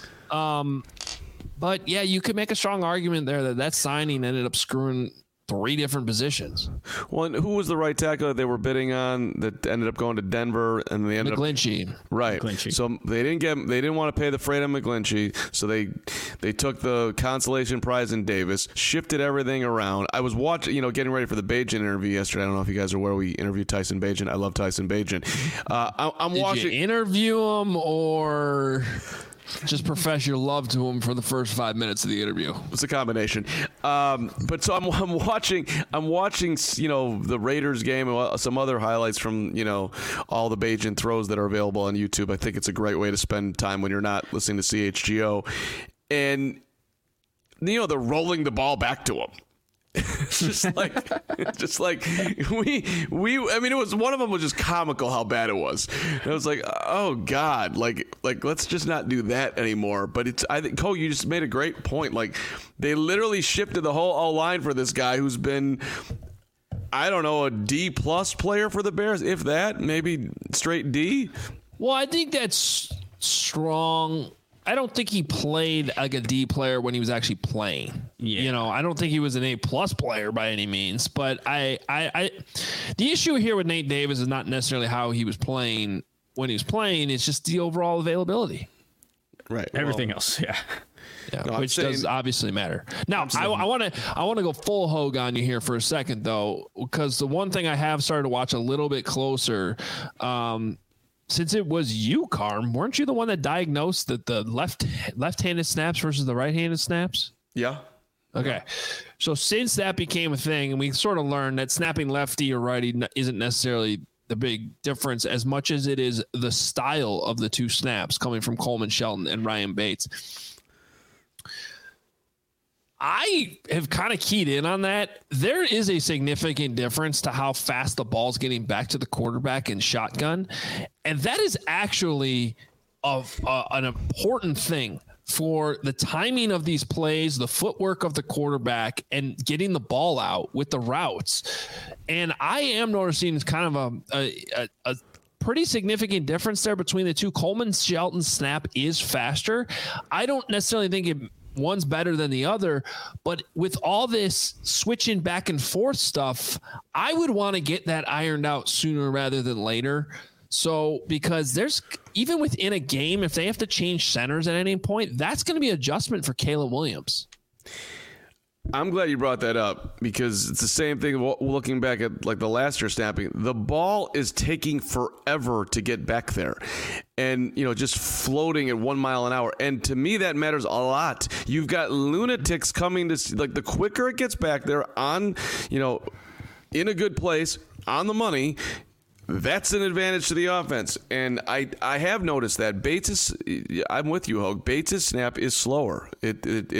But, yeah, you could make a strong argument there that signing ended up screwing 3 different positions. Well, and who was the right tackle that they were bidding on that ended up going to Denver, and they ended McGlinchey. Right. McGlinchey. So they didn't want to pay the freight on McGlinchey, so they took the consolation prize in Davis, shifted everything around. I was watching, getting ready for the Bagent interview yesterday. I don't know if you guys are aware, we interviewed Tyson Bagent. I love Tyson Bagent. I'm watching. Did you interview him or just profess your love to him for the first 5 minutes of the interview? It's a combination. But so I'm watching, the Raiders game and some other highlights from, all the Bagent throws that are available on YouTube. I think it's a great way to spend time when you're not listening to CHGO. And, they're rolling the ball back to him. just like it was, one of them was just comical how bad it was. And I was like, oh God, like let's just not do that anymore. But I think, Cole, you just made a great point. Like, they literally shifted the whole O-line for this guy who's been, I don't know, a D+ player for the Bears, if that, maybe straight D. Well, I think that's strong. I don't think he played like a D player when he was actually playing. Yeah. I don't think he was an A+ player by any means. But the issue here with Nate Davis is not necessarily how he was playing when he was playing. It's just the overall availability. Right. Everything else. Yeah. Yeah, no, which does obviously matter. Now, I want to go full hog on you here for a second, though, because the one thing I have started to watch a little bit closer, since it was you, Carm, weren't you the one that diagnosed that the left-handed snaps versus the right-handed snaps? Yeah. Okay. So since that became a thing, and we sort of learned that snapping lefty or righty isn't necessarily the big difference as much as it is the style of the two snaps coming from Coleman Shelton and Ryan Bates. I have kind of keyed in on that. There is a significant difference to how fast the ball's getting back to the quarterback in shotgun. And that is actually an important thing for the timing of these plays, the footwork of the quarterback, and getting the ball out with the routes. And I am noticing kind of a pretty significant difference there between the two. Coleman Shelton's snap is faster. I don't necessarily think one's better than the other, but with all this switching back and forth stuff, I would want to get that ironed out sooner rather than later. So, because there's, even within a game, if they have to change centers at any point, that's going to be adjustment for Caleb Williams. I'm glad you brought that up, because it's the same thing looking back at like the last year snapping. The ball is taking forever to get back there and, just floating at 1 mile an hour. And to me, that matters a lot. You've got lunatics coming to, like, the quicker it gets back there on, in a good place, on the money, that's an advantage to the offense. And I have noticed that I'm with you, Hogue. Bates' snap is slower. I think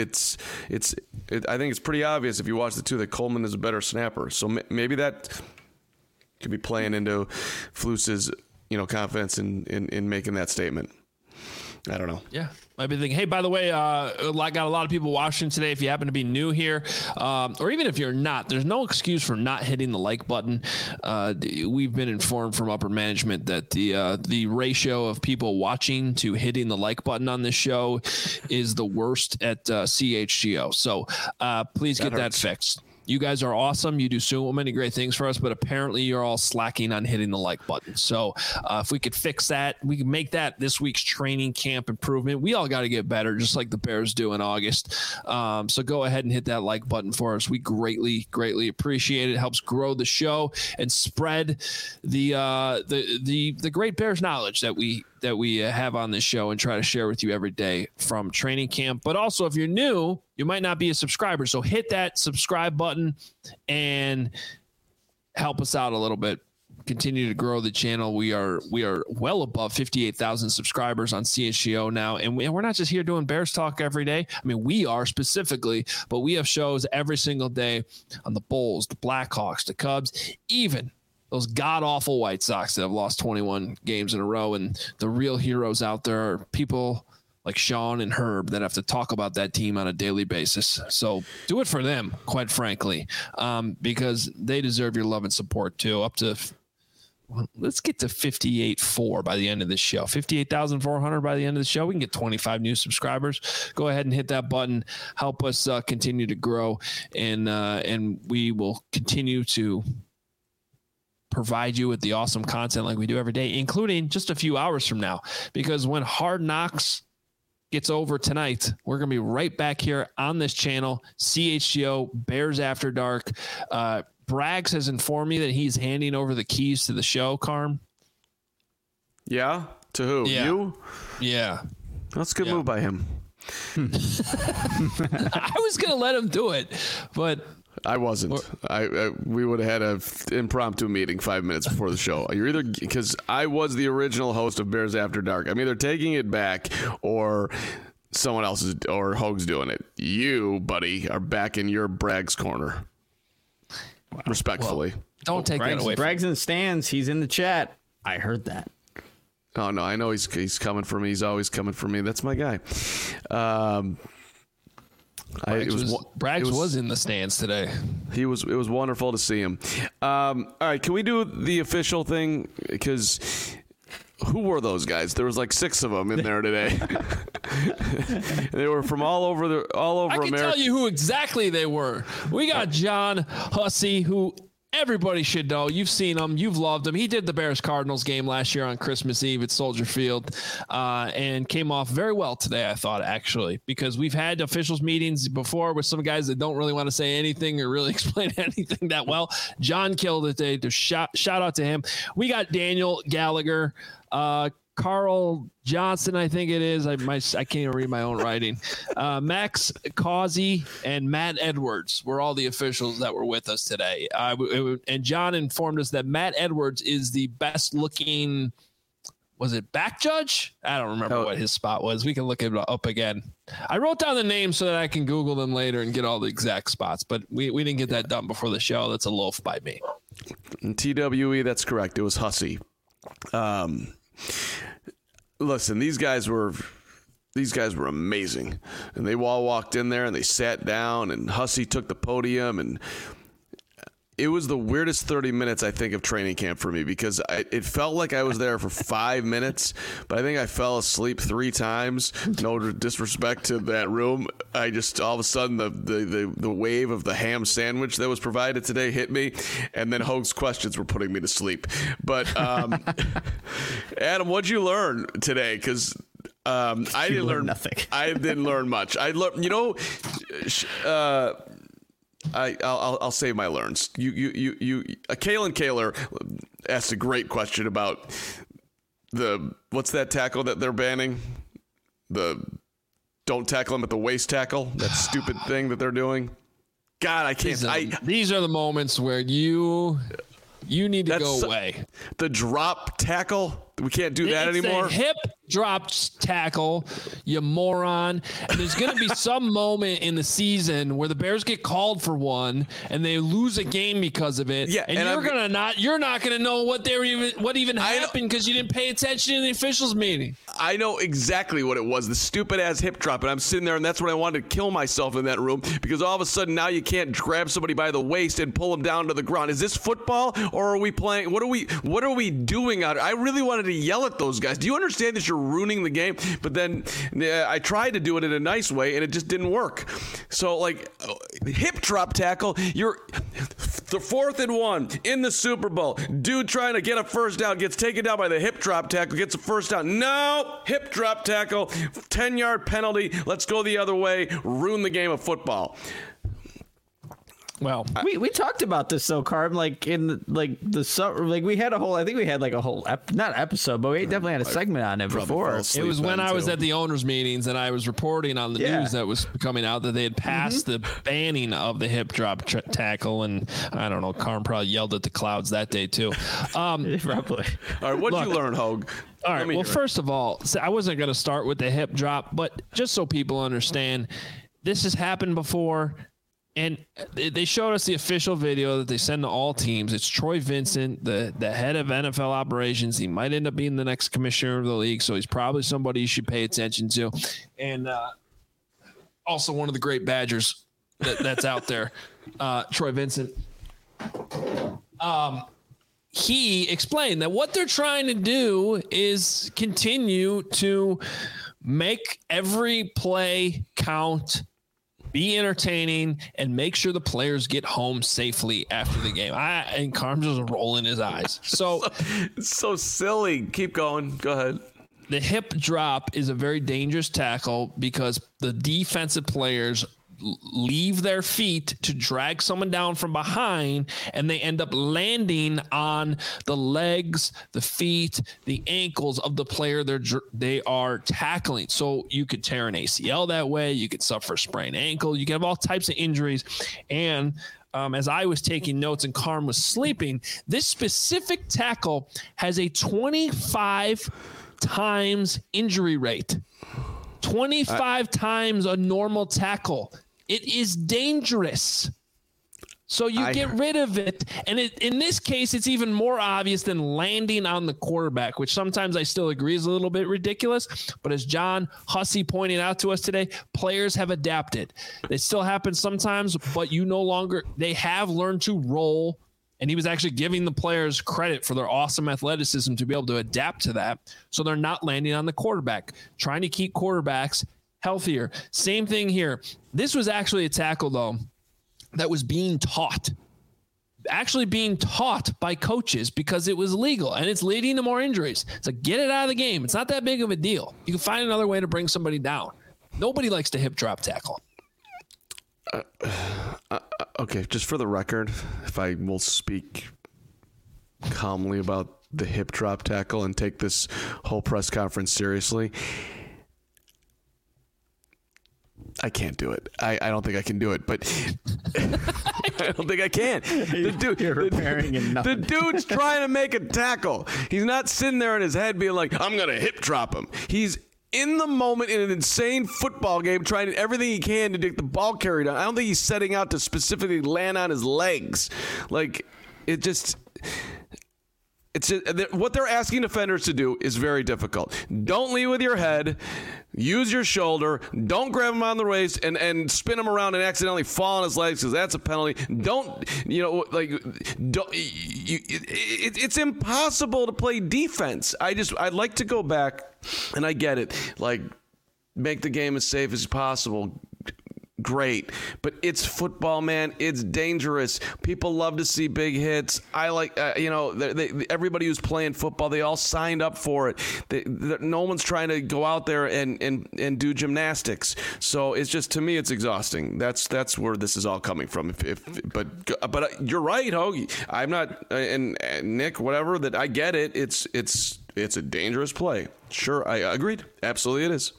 it's pretty obvious if you watch the two that Coleman is a better snapper. So maybe that could be playing into Flus's, confidence in making that statement. I don't know. Yeah. Might be thinking, hey, by the way, I got a lot of people watching today. If you happen to be new here, or even if you're not, there's no excuse for not hitting the like button. We've been informed from upper management that the ratio of people watching to hitting the like button on this show is the worst at CHGO. So please get that fixed. You guys are awesome. You do so many great things for us, but apparently you're all slacking on hitting the like button. So if we could fix that, we can make that this week's training camp improvement. We all got to get better, just like the Bears do in August. So go ahead and hit that like button for us. We greatly, greatly appreciate it. It helps grow the show and spread the great Bears knowledge that we have on this show and try to share with you every day from training camp. But also, if you're new, you might not be a subscriber. So hit that subscribe button and help us out a little bit. Continue to grow the channel. We are well above 58,000 subscribers on CHGO now. And we're not just here doing Bears talk every day. I mean, we are specifically, but we have shows every single day on the Bulls, the Blackhawks, the Cubs, even those god-awful White Sox that have lost 21 games in a row. And the real heroes out there are people like Sean and Herb that have to talk about that team on a daily basis. So do it for them, quite frankly, because they deserve your love and support too. Let's get to 58.4 by the end of this show. 58,400 by the end of the show. We can get 25 new subscribers. Go ahead and hit that button. Help us continue to grow, and we will continue to provide you with the awesome content like we do every day, including just a few hours from now, because when Hard Knocks gets over tonight, we're going to be right back here on this channel, CHGO Bears After Dark. Braggs has informed me that he's handing over the keys to the show, Carm. Yeah? To who? Yeah. You? Yeah. That's a good move by him. I was going to let him do it, but I wasn't. We would have had an impromptu meeting 5 minutes before the show. You're either, because I was the original host of Bears After Dark, I'm either taking it back or someone else is, or Hogue's doing it. You, buddy, are back in your Braggs corner. Wow. Respectfully. Well, don't take that away. Braggs in the stands. He's in the chat. I heard that. Oh no, I know he's coming for me. He's always coming for me. That's my guy. Braggs was in the stands today. It was wonderful to see him. All right, can we do the official thing? Because who were those guys? There was like 6 of them in there today. They were from all over I can America. tell you who exactly they were. We got John Hussey, who everybody should know. You've seen him. You've loved him. He did the Bears-Cardinals game last year on Christmas Eve at Soldier Field and came off very well today, I thought, actually, because we've had officials meetings before with some guys that don't really want to say anything or really explain anything that well. John killed it today. Shout out to him. We got Daniel Gallagher, Carl Johnson, I think it is. I can't even read my own writing. Max Causey and Matt Edwards were all the officials that were with us today. And John informed us that Matt Edwards is the best looking, was it back judge? I don't remember what his spot was. We can look it up again. I wrote down the names so that I can Google them later and get all the exact spots, but we didn't get that done before the show. That's a loaf by me. TWE, that's correct. It was Hussey. Listen, these guys were amazing, and they all walked in there and they sat down, and Hussey took the podium, and it was the weirdest 30 minutes, I think, of training camp for me, because it felt like I was there for 5 minutes, but I think I fell asleep 3 times. No disrespect to that room. I just, all of a sudden, the wave of the ham sandwich that was provided today hit me, and then Hoag's questions were putting me to sleep. But, Adam, what'd you learn today? Because I didn't learn nothing. I didn't learn much. I learned, I'll save my learns. Kalen Kaler asked a great question about what's that tackle that they're banning? Don't tackle him at the waist tackle. That stupid thing that they're doing. God, I can't. These are the moments where you need to go away. The drop tackle. We can't do that anymore. It's a hip drop tackle, you moron. And there's going to be some moment in the season where the Bears get called for one and they lose a game because of it. Yeah, and you're not going to know what even happened because you didn't pay attention in the officials meeting. I know exactly what it was, the stupid ass hip drop, and I'm sitting there, and that's when I wanted to kill myself in that room, because all of a sudden now you can't grab somebody by the waist and pull them down to the ground. Is this football, or are we playing? What are we doing out here? I really wanted to yell at those guys. Do you understand that you're ruining the game? But then I tried to do it in a nice way, and it just didn't work. So, like, hip drop tackle, you're the 4th and 1 in the Super Bowl. Dude trying to get a first down, gets taken down by the hip drop tackle, gets a first down. No, hip drop tackle, 10-yard penalty. Let's go the other way. Ruin the game of football. Well, we talked about this though, Carm. Like in the summer, like we had a whole. I think we had like a whole not episode, but we definitely had a segment on it before. It was when I was at the owners' meetings and I was reporting on the news that was coming out that they had passed the banning of the hip drop tackle, and I don't know. Carm probably yelled at the clouds that day too. Probably. All right, what'd you learn, Hoag? All right. Well, first of all, I wasn't going to start with the hip drop, but just so people understand, this has happened before. And they showed us the official video that they send to all teams. It's Troy Vincent, the head of NFL operations. He might end up being the next commissioner of the league, so he's probably somebody you should pay attention to. And also one of the great Badgers that's out there, Troy Vincent. He explained that what they're trying to do is continue to make every play count, be entertaining, and make sure the players get home safely after the game. And Carm's just rolling his eyes. So it's so silly. Keep going. Go ahead. The hip drop is a very dangerous tackle because the defensive players leave their feet to drag someone down from behind, and they end up landing on the legs, the feet, the ankles of the player they are tackling. So you could tear an ACL that way. You could suffer a sprained ankle. You can have all types of injuries. And as I was taking notes and Carm was sleeping, this specific tackle has a 25 times injury rate. 25 times a normal tackle. It is dangerous. So you get rid of it. And in this case, it's even more obvious than landing on the quarterback, which sometimes I still agree is a little bit ridiculous. But as John Hussey pointed out to us today, players have adapted. It still happens sometimes, but they have learned to roll. And he was actually giving the players credit for their awesome athleticism to be able to adapt to that. So they're not landing on the quarterback, trying to keep quarterbacks healthier. Same thing here. This was actually a tackle, though, that was being taught. actually being taught by coaches because it was legal and it's leading to more injuries. So get it out of the game. It's not that big of a deal. You can find another way to bring somebody down. Nobody likes to hip drop tackle. Okay, just for the record, if I will speak calmly about the hip drop tackle and take this whole press conference seriously, I can't do it. I don't think I can do it, but I don't think I can. The dude's trying to make a tackle. He's not sitting there in his head being like, I'm going to hip drop him. He's in the moment in an insane football game trying everything he can to get the ball carried on. I don't think he's setting out to specifically land on his legs. Like, what they're asking defenders to do is very difficult. Don't lead with your head. Use your shoulder. Don't grab him on the waist and spin him around and accidentally fall on his legs because that's a penalty. It's impossible to play defense. I'd like to go back, and I get it. Like, make the game as safe as possible. Great, but it's football, man. It's dangerous. People love to see big hits. I like, everybody who's playing football, they all signed up for it. No one's trying to go out there and do gymnastics. So it's just, to me, it's exhausting. That's where this is all coming from. But you're right, Hoagie. I'm not, and Nick, whatever. That I get it. It's a dangerous play. Sure, I agreed. Absolutely, it is.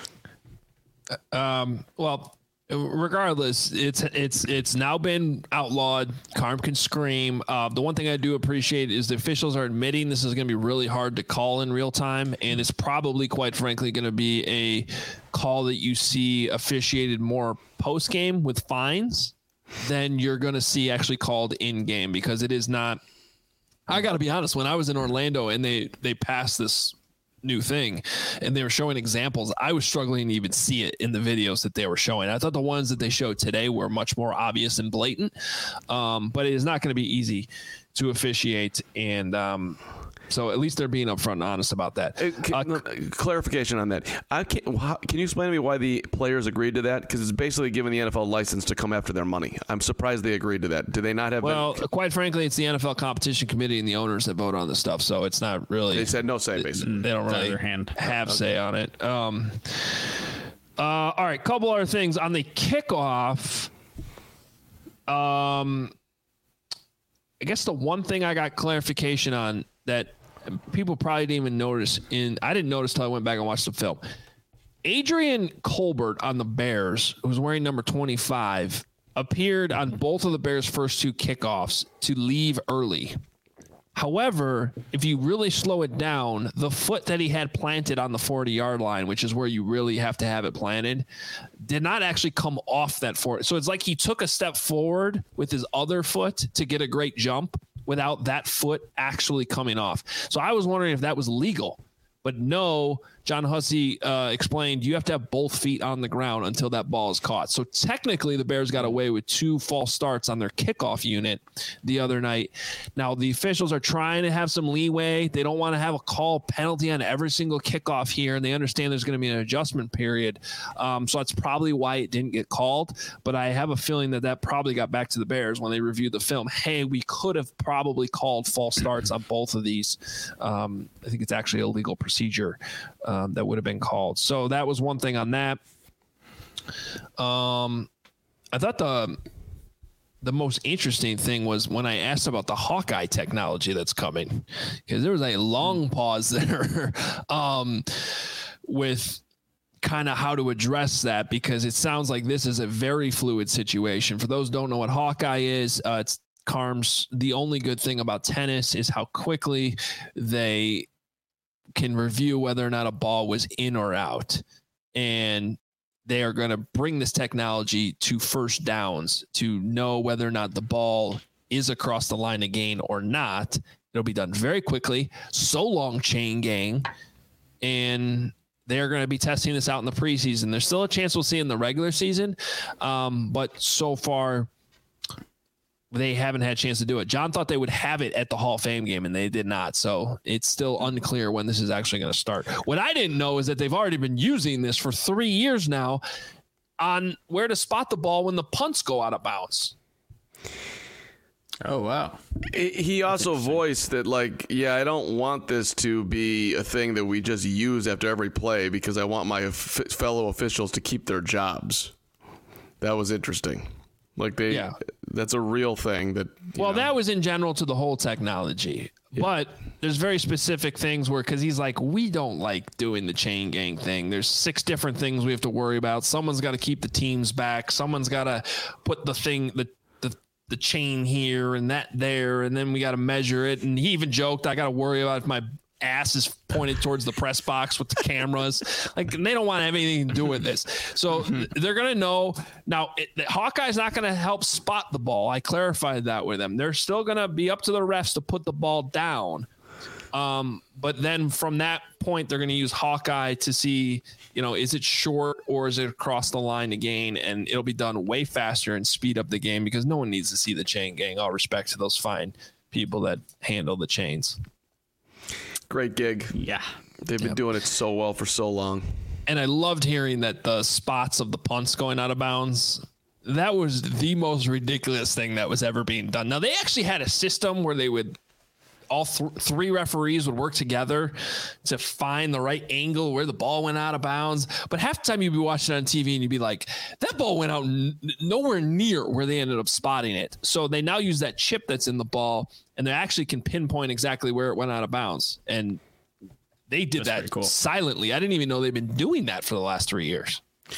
Well. Regardless, it's now been outlawed. Carm can scream. The one thing I do appreciate is the officials are admitting this is going to be really hard to call in real time, and it's probably, quite frankly, going to be a call that you see officiated more post game with fines than you're going to see actually called in game, because it is not. I got to be honest. When I was in Orlando and they passed this new thing and they were showing examples, I was struggling to even see it in the videos that they were showing. I thought the ones that they showed today were much more obvious and blatant, but it is not going to be easy to officiate, and so at least they're being upfront and honest about that. Clarification on that. Can you explain to me why the players agreed to that? Because it's basically giving the NFL license to come after their money. I'm surprised they agreed to that. Do they not have? Well, quite frankly, it's the NFL Competition Committee and the owners that vote on this stuff, so it's not really. They said no say, basically. They don't really have say on it. All right, couple other things on the kickoff. I guess the one thing I got clarification on that people probably didn't even notice, I didn't notice till I went back and watched the film. Adrian Colbert on the Bears, who was wearing number 25, appeared on both of the Bears' first two kickoffs to leave early. However, if you really slow it down, the foot that he had planted on the 40-yard line, which is where you really have to have it planted, did not actually come off that 40. So it's like he took a step forward with his other foot to get a great jump without that foot actually coming off. So I was wondering if that was legal. But no, John Hussey explained you have to have both feet on the ground until that ball is caught. So technically the Bears got away with 2 false starts on their kickoff unit the other night. Now the officials are trying to have some leeway. They don't want to have a call penalty on every single kickoff here, and they understand there's going to be an adjustment period. So that's probably why it didn't get called. But I have a feeling that probably got back to the Bears when they reviewed the film. Hey, we could have probably called false starts on both of these. I think it's actually a legal procedure that would have been called. So that was one thing on that. I thought the most interesting thing was when I asked about the Hawkeye technology that's coming, because there was a long pause there with kind of how to address that, because it sounds like this is a very fluid situation. For those who don't know what Hawkeye is, it's Carms. The only good thing about tennis is how quickly they can review whether or not a ball was in or out. And they are going to bring this technology to first downs to know whether or not the ball is across the line of gain or not. It'll be done very quickly. So long, chain gang. And they're going to be testing this out in the preseason. There's still a chance we'll see in the regular season. But so far, they haven't had a chance to do it. John thought they would have it at the Hall of Fame game, and they did not. So it's still unclear when this is actually going to start. What I didn't know is that they've already been using this for 3 years now on where to spot the ball when the punts go out of bounds. Oh, wow. He also voiced that, like, yeah, I don't want this to be a thing that we just use after every play because I want my fellow officials to keep their jobs. That was interesting. Like, that's a real thing that. That was in general to the whole technology. Yeah. But there's very specific things because he's like, we don't like doing the chain gang thing. There's 6 different things we have to worry about. Someone's got to keep the teams back. Someone's got to put the chain here and that there. And then we got to measure it. And he even joked, I got to worry about if my ass is pointed towards the press box with the cameras. Like, they don't want to have anything to do with this. So they're going to know. Now, Hawkeye's not going to help spot the ball. I clarified that with them. They're still going to be up to the refs to put the ball down. But then from that point, they're going to use Hawkeye to see, is it short or is it across the line to gain? And it'll be done way faster and speed up the game because no one needs to see the chain gang. All respect to those fine people that handle the chains. Great gig. Yeah. They've been doing it so well for so long. And I loved hearing that the spots of the punts going out of bounds, that was the most ridiculous thing that was ever being done. Now, they actually had a system where they would, all 3 referees would work together to find the right angle where the ball went out of bounds. But half the time you'd be watching it on TV and you'd be like, that ball went out nowhere near where they ended up spotting it. So they now use that chip that's in the ball, and they actually can pinpoint exactly where it went out of bounds. And they did that silently. I didn't even know they've been doing that for the last 3 years.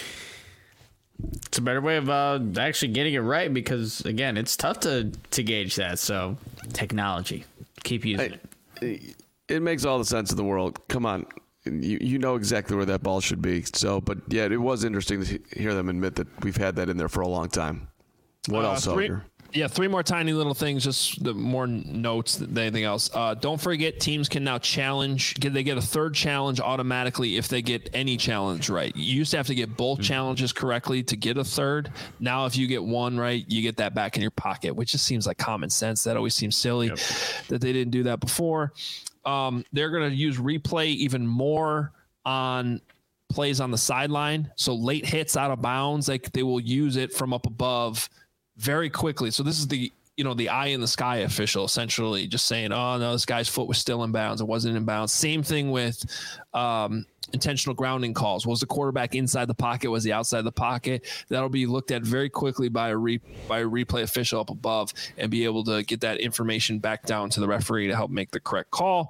It's a better way of actually getting it right because, again, it's tough to gauge that. So technology. Keep using it. It makes all the sense in the world. Come on. You know exactly where that ball should be. So, but yeah, it was interesting to hear them admit that we've had that in there for a long time. What else, Elder? 3 more tiny little things, just more notes than anything else. Don't forget, teams can now challenge. They get a 3rd challenge automatically if they get any challenge right. You used to have to get both challenges correctly to get a 3rd. Now, if you get one right, you get that back in your pocket, which just seems like common sense. That always seems silly that they didn't do that before. They're going to use replay even more on plays on the sideline. So late hits out of bounds, they will use it from up above very quickly. So this is the eye in the sky official essentially just saying, oh no, this guy's foot was still in bounds. It wasn't in bounds. Same thing with intentional grounding calls. Was the quarterback inside the pocket? Was he outside the pocket? That'll be looked at very quickly by a replay official up above and be able to get that information back down to the referee to help make the correct call.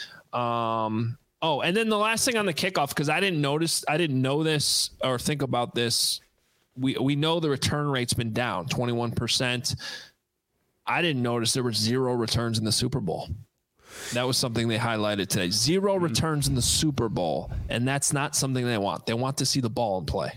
And then the last thing on the kickoff, because I didn't know this or think about this. We know the return rate's been down 21%. I didn't notice there were 0 returns in the Super Bowl. That was something they highlighted today. 0 returns in the Super Bowl, and that's not something they want. They want to see the ball in play.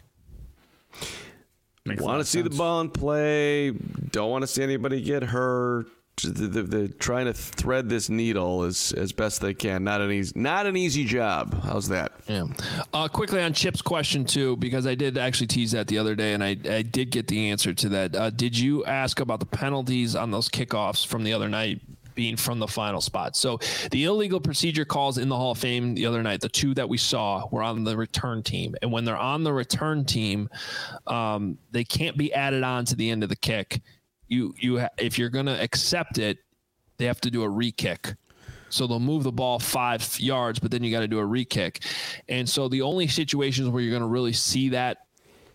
Want to see the ball in play. Don't want to see anybody get hurt. They're trying to thread this needle as best they can. Not an easy job. How's that? Yeah. Quickly on Chip's question too, because I did actually tease that the other day, and I did get the answer to that. Did you ask about the penalties on those kickoffs from the other night being from the final spot? So the illegal procedure calls in the Hall of Fame the other night, the 2 that we saw were on the return team, and when they're on the return team, they can't be added on to the end of the kick. If you're going to accept it, they have to do a re-kick. So they'll move the ball 5 yards, but then you got to do a re-kick. And so the only situations where you're going to really see that,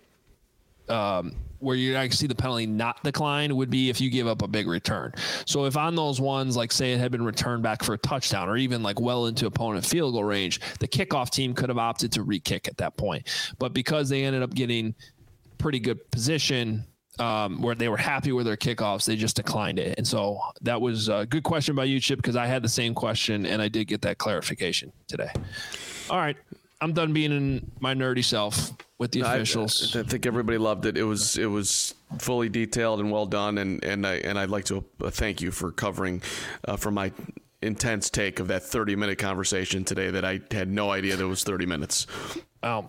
where you're going to see the penalty not decline, would be if you give up a big return. So if on those ones, like say it had been returned back for a touchdown or even like well into opponent field goal range, the kickoff team could have opted to re-kick at that point. But because they ended up getting pretty good position, where they were happy with their kickoffs, they just declined it. And so that was a good question by you, Chip, because I had the same question, and I did get that clarification today. All right. I'm done being in my nerdy self with the officials. I think everybody loved it. It was fully detailed and well done, and I'd like to thank you for covering for my intense take of that 30-minute conversation today that I had no idea there was 30 minutes. I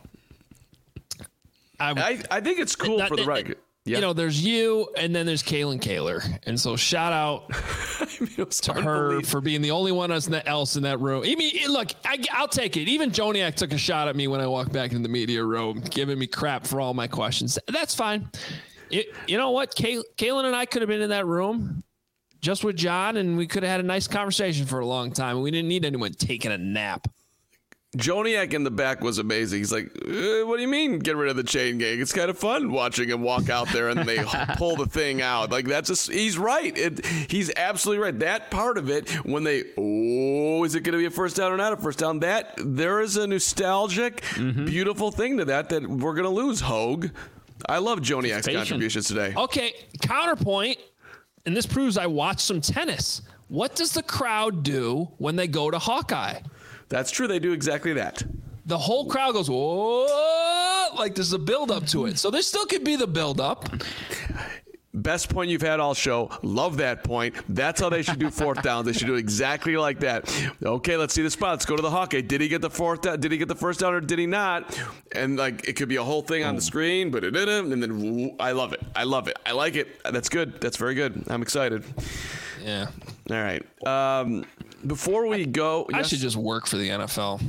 think it's cool for the record. Yeah. There's you, and then there's Kaylin Kaler. And so shout out to her for being the only one else in that room. I mean, look, I'll take it. Even Joniak took a shot at me when I walked back into the media room, giving me crap for all my questions. That's fine. You know what? Kaylin and I could have been in that room, just with John, and we could have had a nice conversation for a long time. We didn't need anyone taking a nap. Joniak in the back was amazing. He's like, what do you mean get rid of the chain gang? It's kind of fun watching him walk out there and they pull the thing out. Like, he's right. He's absolutely right. That part of it, when is it going to be a first down or not a first down? There is a nostalgic, beautiful thing to that we're going to lose, Hogue. I love Joniak's contributions today. Okay, counterpoint, and this proves I watched some tennis. What does the crowd do when they go to Hawkeye? That's true. They do exactly that. The whole crowd goes, whoa, like there's a build-up to it. So there still could be the build-up. Best point you've had all show. Love that point. That's how they should do fourth downs. They should do exactly like that. Okay, let's see the spot. Let's go to the Hawkeye. Did he get the fourth down? Did he get the first down or did he not? And like it could be a whole thing on the screen, but and then I love it. I love it. I like it. That's good. That's very good. I'm excited. Yeah. All right. Before we go, I should just work for the NFL.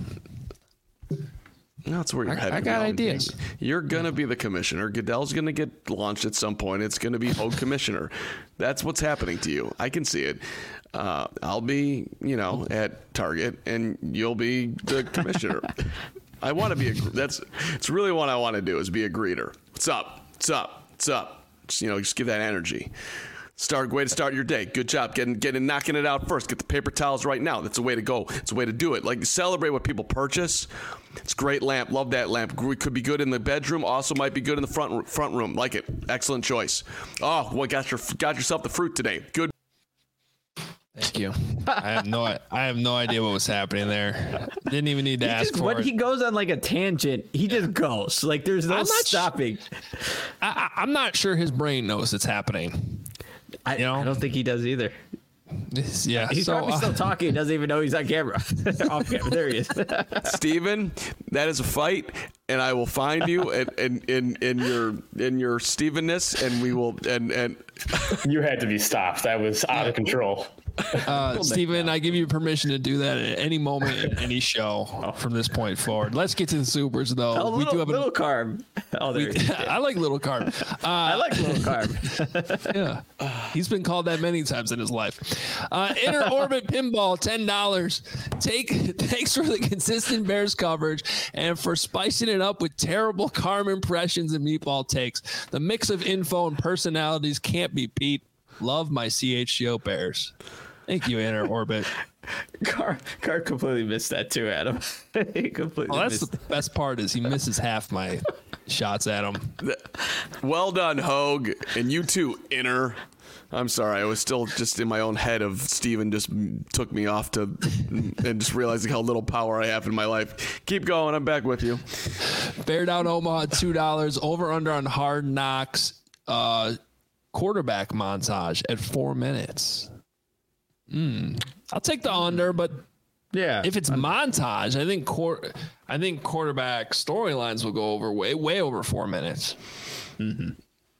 No, that's where you're headed. I got ideas. You're going to be the commissioner. Goodell's going to get launched at some point. It's going to be Hogue commissioner. That's what's happening to you. I can see it. I'll be, at Target, and you'll be the commissioner. I want to be it's really what I want to do is be a greeter. What's up? What's up? What's up? Just give that energy. Way to start your day. Good job knocking it out first. Get the paper towels right now. That's the way to go. It's a way to do it. Like, celebrate what people purchase. It's a great lamp. Love that lamp. It could be good in the bedroom. Also might be good in the front room. Like it. Excellent choice. Oh, well, got yourself the fruit today. Good. Thank you. I have no idea what was happening there. Didn't even need to ask for it. When he goes on like a tangent, he just goes. Like, there's no stopping. I'm not sure his brain knows it's happening. I don't think he does either. Yeah, he's probably still talking. He doesn't even know he's on camera. Off camera. There he is. Steven, that is a fight, and I will find you in your Stevenness, and we will and You had to be stopped. That was out of control. Steven, I give you permission to do that at any moment in any show from this point forward. Let's get to the supers, though. We do have little carb. Oh, there I like little carb. I like little carb. Yeah, he's been called that many times in his life. Inner Orbit Pinball, $10. Thanks for the consistent Bears coverage and for spicing it up with terrible Carm impressions and meatball takes. The mix of info and personalities can't be beat. Love my CHGO Bears. Thank you, Inner Orbit. Car completely missed that too, Adam. He completely that's the best part is he misses half my shots at him. Well done, Hogue. And you too, Inner. I'm sorry. I was still just in my own head of Steven just took me off and just realizing how little power I have in my life. Keep going. I'm back with you. Bear Down Omaha, $2. Over under on Hard Knocks. Quarterback montage at 4 minutes. I'll take the under, but yeah, if it's montage, I think quarterback storylines will go over way over 4 minutes. It'll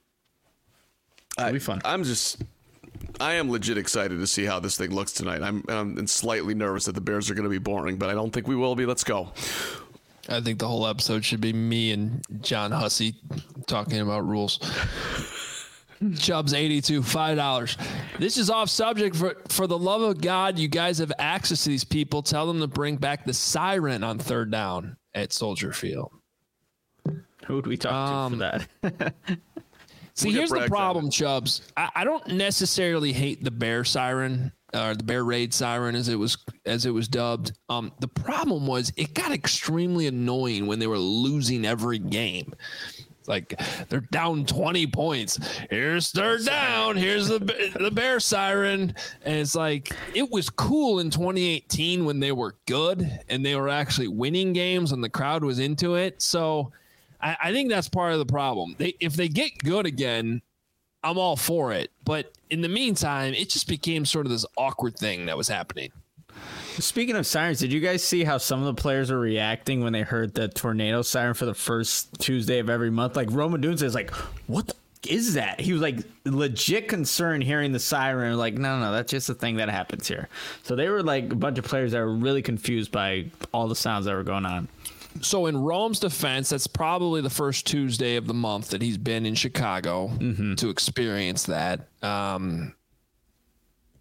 be fun. I am legit excited to see how this thing looks tonight. I'm slightly nervous that the Bears are going to be boring, but I don't think we will be. Let's go. I think the whole episode should be me and John Hussey talking about rules. Chubbs 82, $5. This is off subject. For the love of God, you guys have access to these people. Tell them to bring back the siren on third down at Soldier Field. Who would we talk to for that? See, here's the problem, Chubbs. I don't necessarily hate the Bear siren or the Bear Raid siren as it was dubbed. The problem was it got extremely annoying when they were losing every game. Like, they're down 20 points. Here's third down. Here's the Bear siren. And it's like, it was cool in 2018 when they were good and they were actually winning games and the crowd was into it. So I think that's part of the problem. If they get good again, I'm all for it. But in the meantime, it just became sort of this awkward thing that was happening. Speaking of sirens, did you guys see how some of the players were reacting when they heard the tornado siren for the first Tuesday of every month? Like, Rome Odunze is like, what the is that? He was like legit concerned hearing the siren. Like, no, that's just a thing that happens here. So they were like a bunch of players that were really confused by all the sounds that were going on. So in Rome's defense, that's probably the first Tuesday of the month that he's been in Chicago to experience that.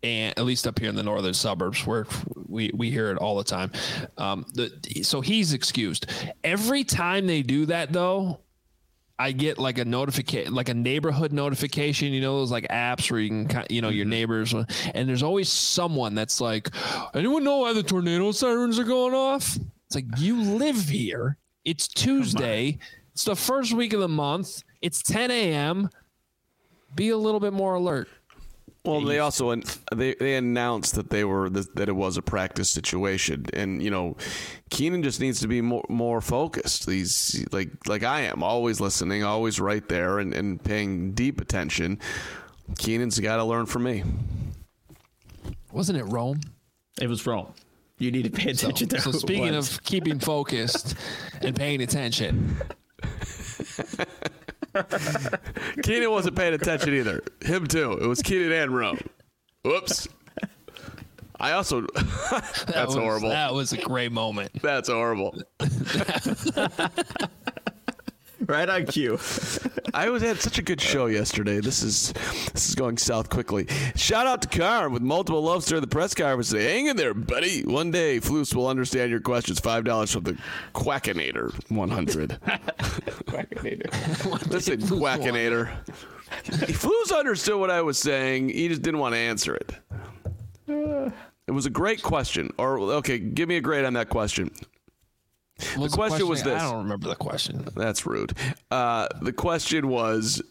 and at least up here in the northern suburbs where we hear it all the time. So he's excused. Every time they do that, though, I get like a notification, like a neighborhood notification, those like apps where you can, your neighbors, and there's always someone that's like, anyone know why the tornado sirens are going off? It's like, you live here. It's Tuesday. It's the first week of the month. It's 10 a.m. Be a little bit more alert. Well, they also they announced that that it was a practice situation, and Keenan just needs to be more focused. He's like I am, always listening, always right there, and paying deep attention. Keenan's got to learn from me. Wasn't it Rome? It was Rome. You need to pay attention to. So speaking of keeping focused and paying attention. Keenan wasn't paying attention either. Him too. It was Keenan and Rome. Whoops. I also. That's horrible. That was a great moment. That's horrible. Right on cue. I had such a good show yesterday. This is going south quickly. Shout out to Carm with multiple loves during the press conference today. Hang in there, buddy. One day, Floos will understand your questions. $5 from the Quackinator 100. Quackinator. Listen, Quackinator. Floos understood what I was saying. He just didn't want to answer it. It was a great question. Okay, give me a grade on that question. The question was this. I don't remember the question. That's rude. The question was,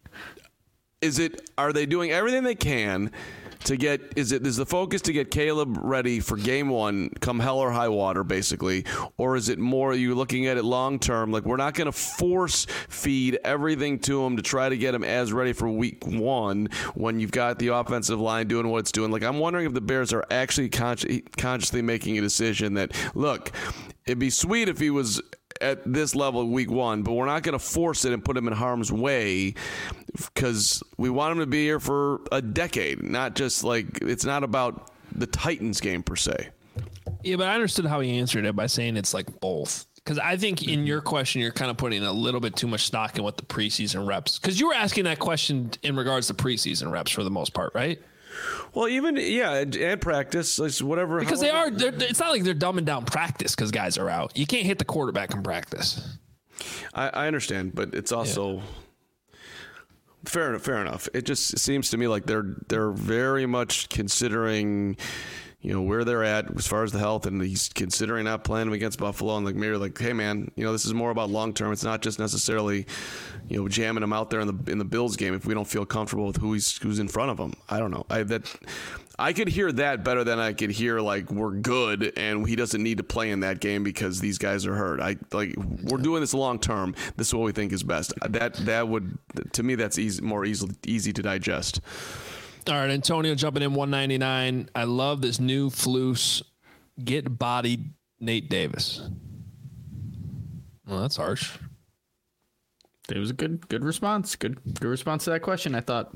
are they doing everything they can to get, is the focus to get Caleb ready for game one, come hell or high water, basically? Or is it more, are you looking at it long term? Like, we're not going to force feed everything to him to try to get him as ready for week one when you've got the offensive line doing what it's doing. Like, I'm wondering if the Bears are actually consciously making a decision that, look, it'd be sweet if he was at this level week one, but we're not going to force it and put him in harm's way because we want him to be here for a decade, not just like, it's not about the Titans game per se. Yeah, but I understood how he answered it by saying it's like both. Because I think in your question, you're kind of putting a little bit too much stock in what the preseason reps. Because you were asking that question in regards to preseason reps for the most part, right? Well, even, and practice, whatever. Because it's not like they're dumbing down practice because guys are out. You can't hit the quarterback in practice. I understand, but it's also fair enough. It just seems to me like they're very much considering, where they're at as far as the health, and he's considering not playing against Buffalo, and maybe hey man, this is more about long term. It's not just necessarily, jamming him out there in the Bills game if we don't feel comfortable with who's in front of him. I don't know. I could hear that better than I could hear like we're good and he doesn't need to play in that game because these guys are hurt. We're doing this long term. This is what we think is best. That would, to me, that's easy to digest. All right, Antonio jumping in 199. I love this new Floos get bodied Nate Davis. Well, that's harsh. It was a good response. Good response to that question, I thought.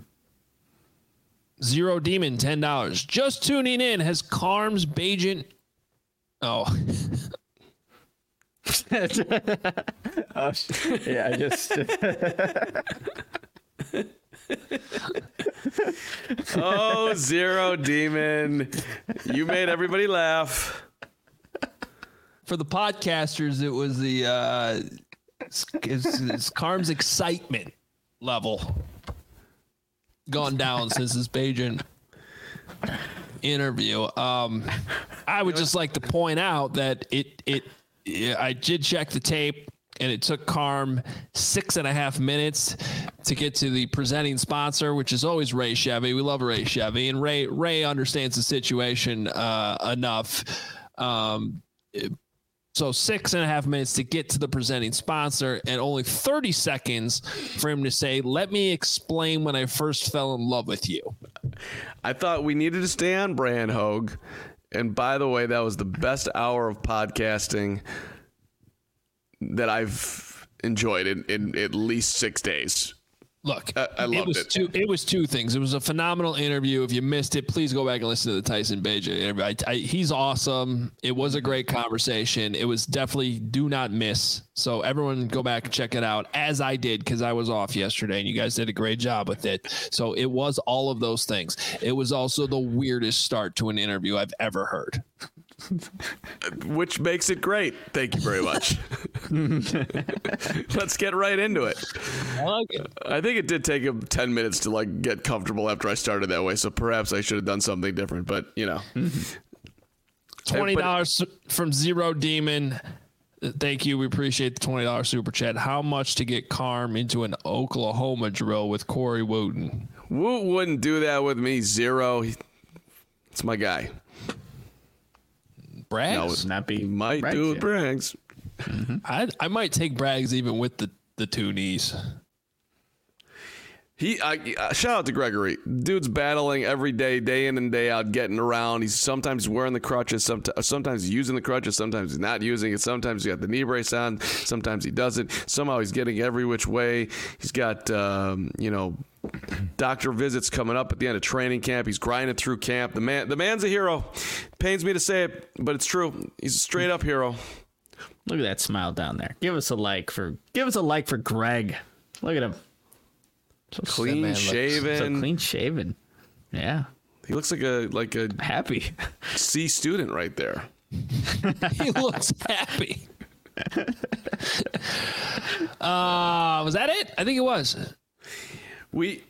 Zero Demon, $10. Just tuning in. Has Carm's Bajent... Oh. Yeah, I just... Oh, Zero Demon. You made everybody laugh. For the podcasters, it was it's Carm's excitement level gone down since this Bajent interview. I would just like to point out that I did check the tape, and it took Carm 6.5 minutes to get to the presenting sponsor, which is always Ray Chevy. We love Ray Chevy, and Ray understands the situation enough. So 6.5 minutes to get to the presenting sponsor, and only 30 seconds for him to say, "Let me explain when I first fell in love with you." I thought we needed to stay on brand, Hogue. And by the way, that was the best hour of podcasting that I've enjoyed in at least 6 days. Look, I loved it. It was two things. It was a phenomenal interview. If you missed it, please go back and listen to the Tyson Bagent interview. He's awesome. It was a great conversation. It was definitely do not miss. So everyone go back and check it out, as I did, because I was off yesterday, and you guys did a great job with it. So it was all of those things. It was also the weirdest start to an interview I've ever heard. Which makes it great. Thank you very much. Let's get right into it. I like it. I think it did take him 10 minutes to get comfortable after I started that way. So perhaps I should have done something different, but $20 from Zero Demon. Thank you. We appreciate the $20 super chat. How much to get Carm into an Oklahoma drill with Corey Wooten? Woot wouldn't do that with me. Zero. It's my guy. Braggs? Not be Might Braggs, do with yeah. Braggs. I might take Braggs even with the two knees. Shout out to Gregory. Dude's battling every day in and day out, getting around. He's sometimes wearing the crutches, sometimes he's using the crutches, sometimes he's not using it. Sometimes he's got the knee brace on, sometimes he doesn't. Somehow he's getting every which way. He's got, doctor visits coming up at the end of training camp. He's grinding through camp. The man's a hero. Pains me to say it, but it's true. He's a straight up hero. Look at that smile down there. Give us a like for Greg. Look at him. So Clean shaven. So clean shaven. Yeah. He looks like a Happy. C student right there. He looks happy. Was that it? I think it was. Okay,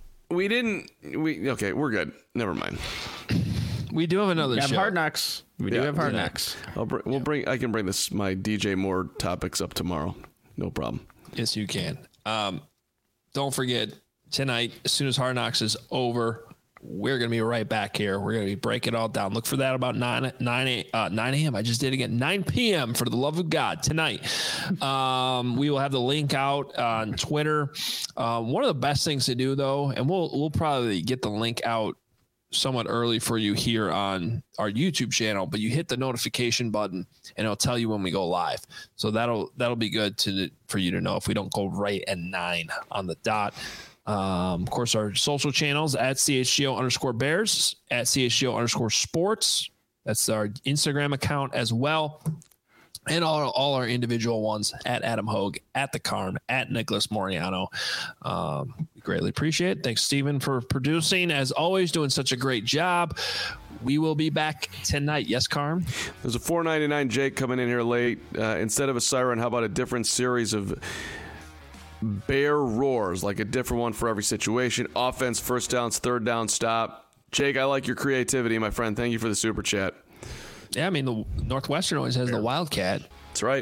we're good. Never mind. We do have another We have show. Hard Knocks. We do have Hard Knocks. I can bring my DJ Moore topics up tomorrow. No problem. Yes, you can. Don't forget, tonight, as soon as Hard Knocks is over, we're going to be right back here. We're going to be breaking it all down. Look for that about 9 a.m. I just did it again. 9 p.m. for the love of God tonight. We will have the link out on Twitter. One of the best things to do, though, and we'll probably get the link out somewhat early for you here on our YouTube channel, but you hit the notification button and it'll tell you when we go live. So that'll be good for you to know if we don't go right at 9 on the dot. Of course, our social channels at CHGO_Bears, at CHGO_Sports. That's our Instagram account as well. And all our individual ones at Adam Hogue, at The Carm, at Nicholas Moriano. We greatly appreciate it. Thanks, Steven, for producing. As always, doing such a great job. We will be back tonight. Yes, Carm? There's a $4.99 Jake coming in here late. Instead of a siren, how about a different series of bear roars, like a different one for every situation? Offense, first downs, third down, stop. Jake, I like your creativity, my friend. Thank you for the super chat. Yeah, I mean, the Northwestern always has the Wildcat. That's right.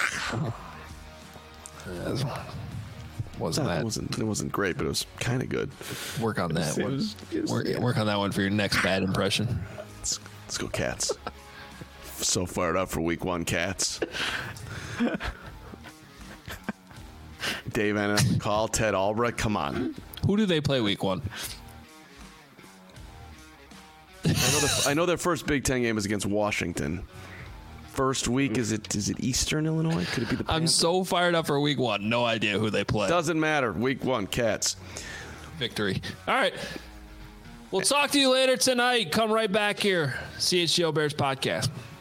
It wasn't great, but it was kind of good. Work on that one. Work on that one for your next bad impression. Let's go, Cats. So fired up for week 1, Cats. Dave Anna, call Ted Albrecht. Come on. Who do they play week 1? I know their first Big Ten game is against Washington. First week, is it Eastern Illinois? Could it be the Panthers? I'm so fired up for week 1. No idea who they play. Doesn't matter. Week 1, Cats. Victory. All right. We'll talk to you later tonight. Come right back here. CHGO Bears Podcast.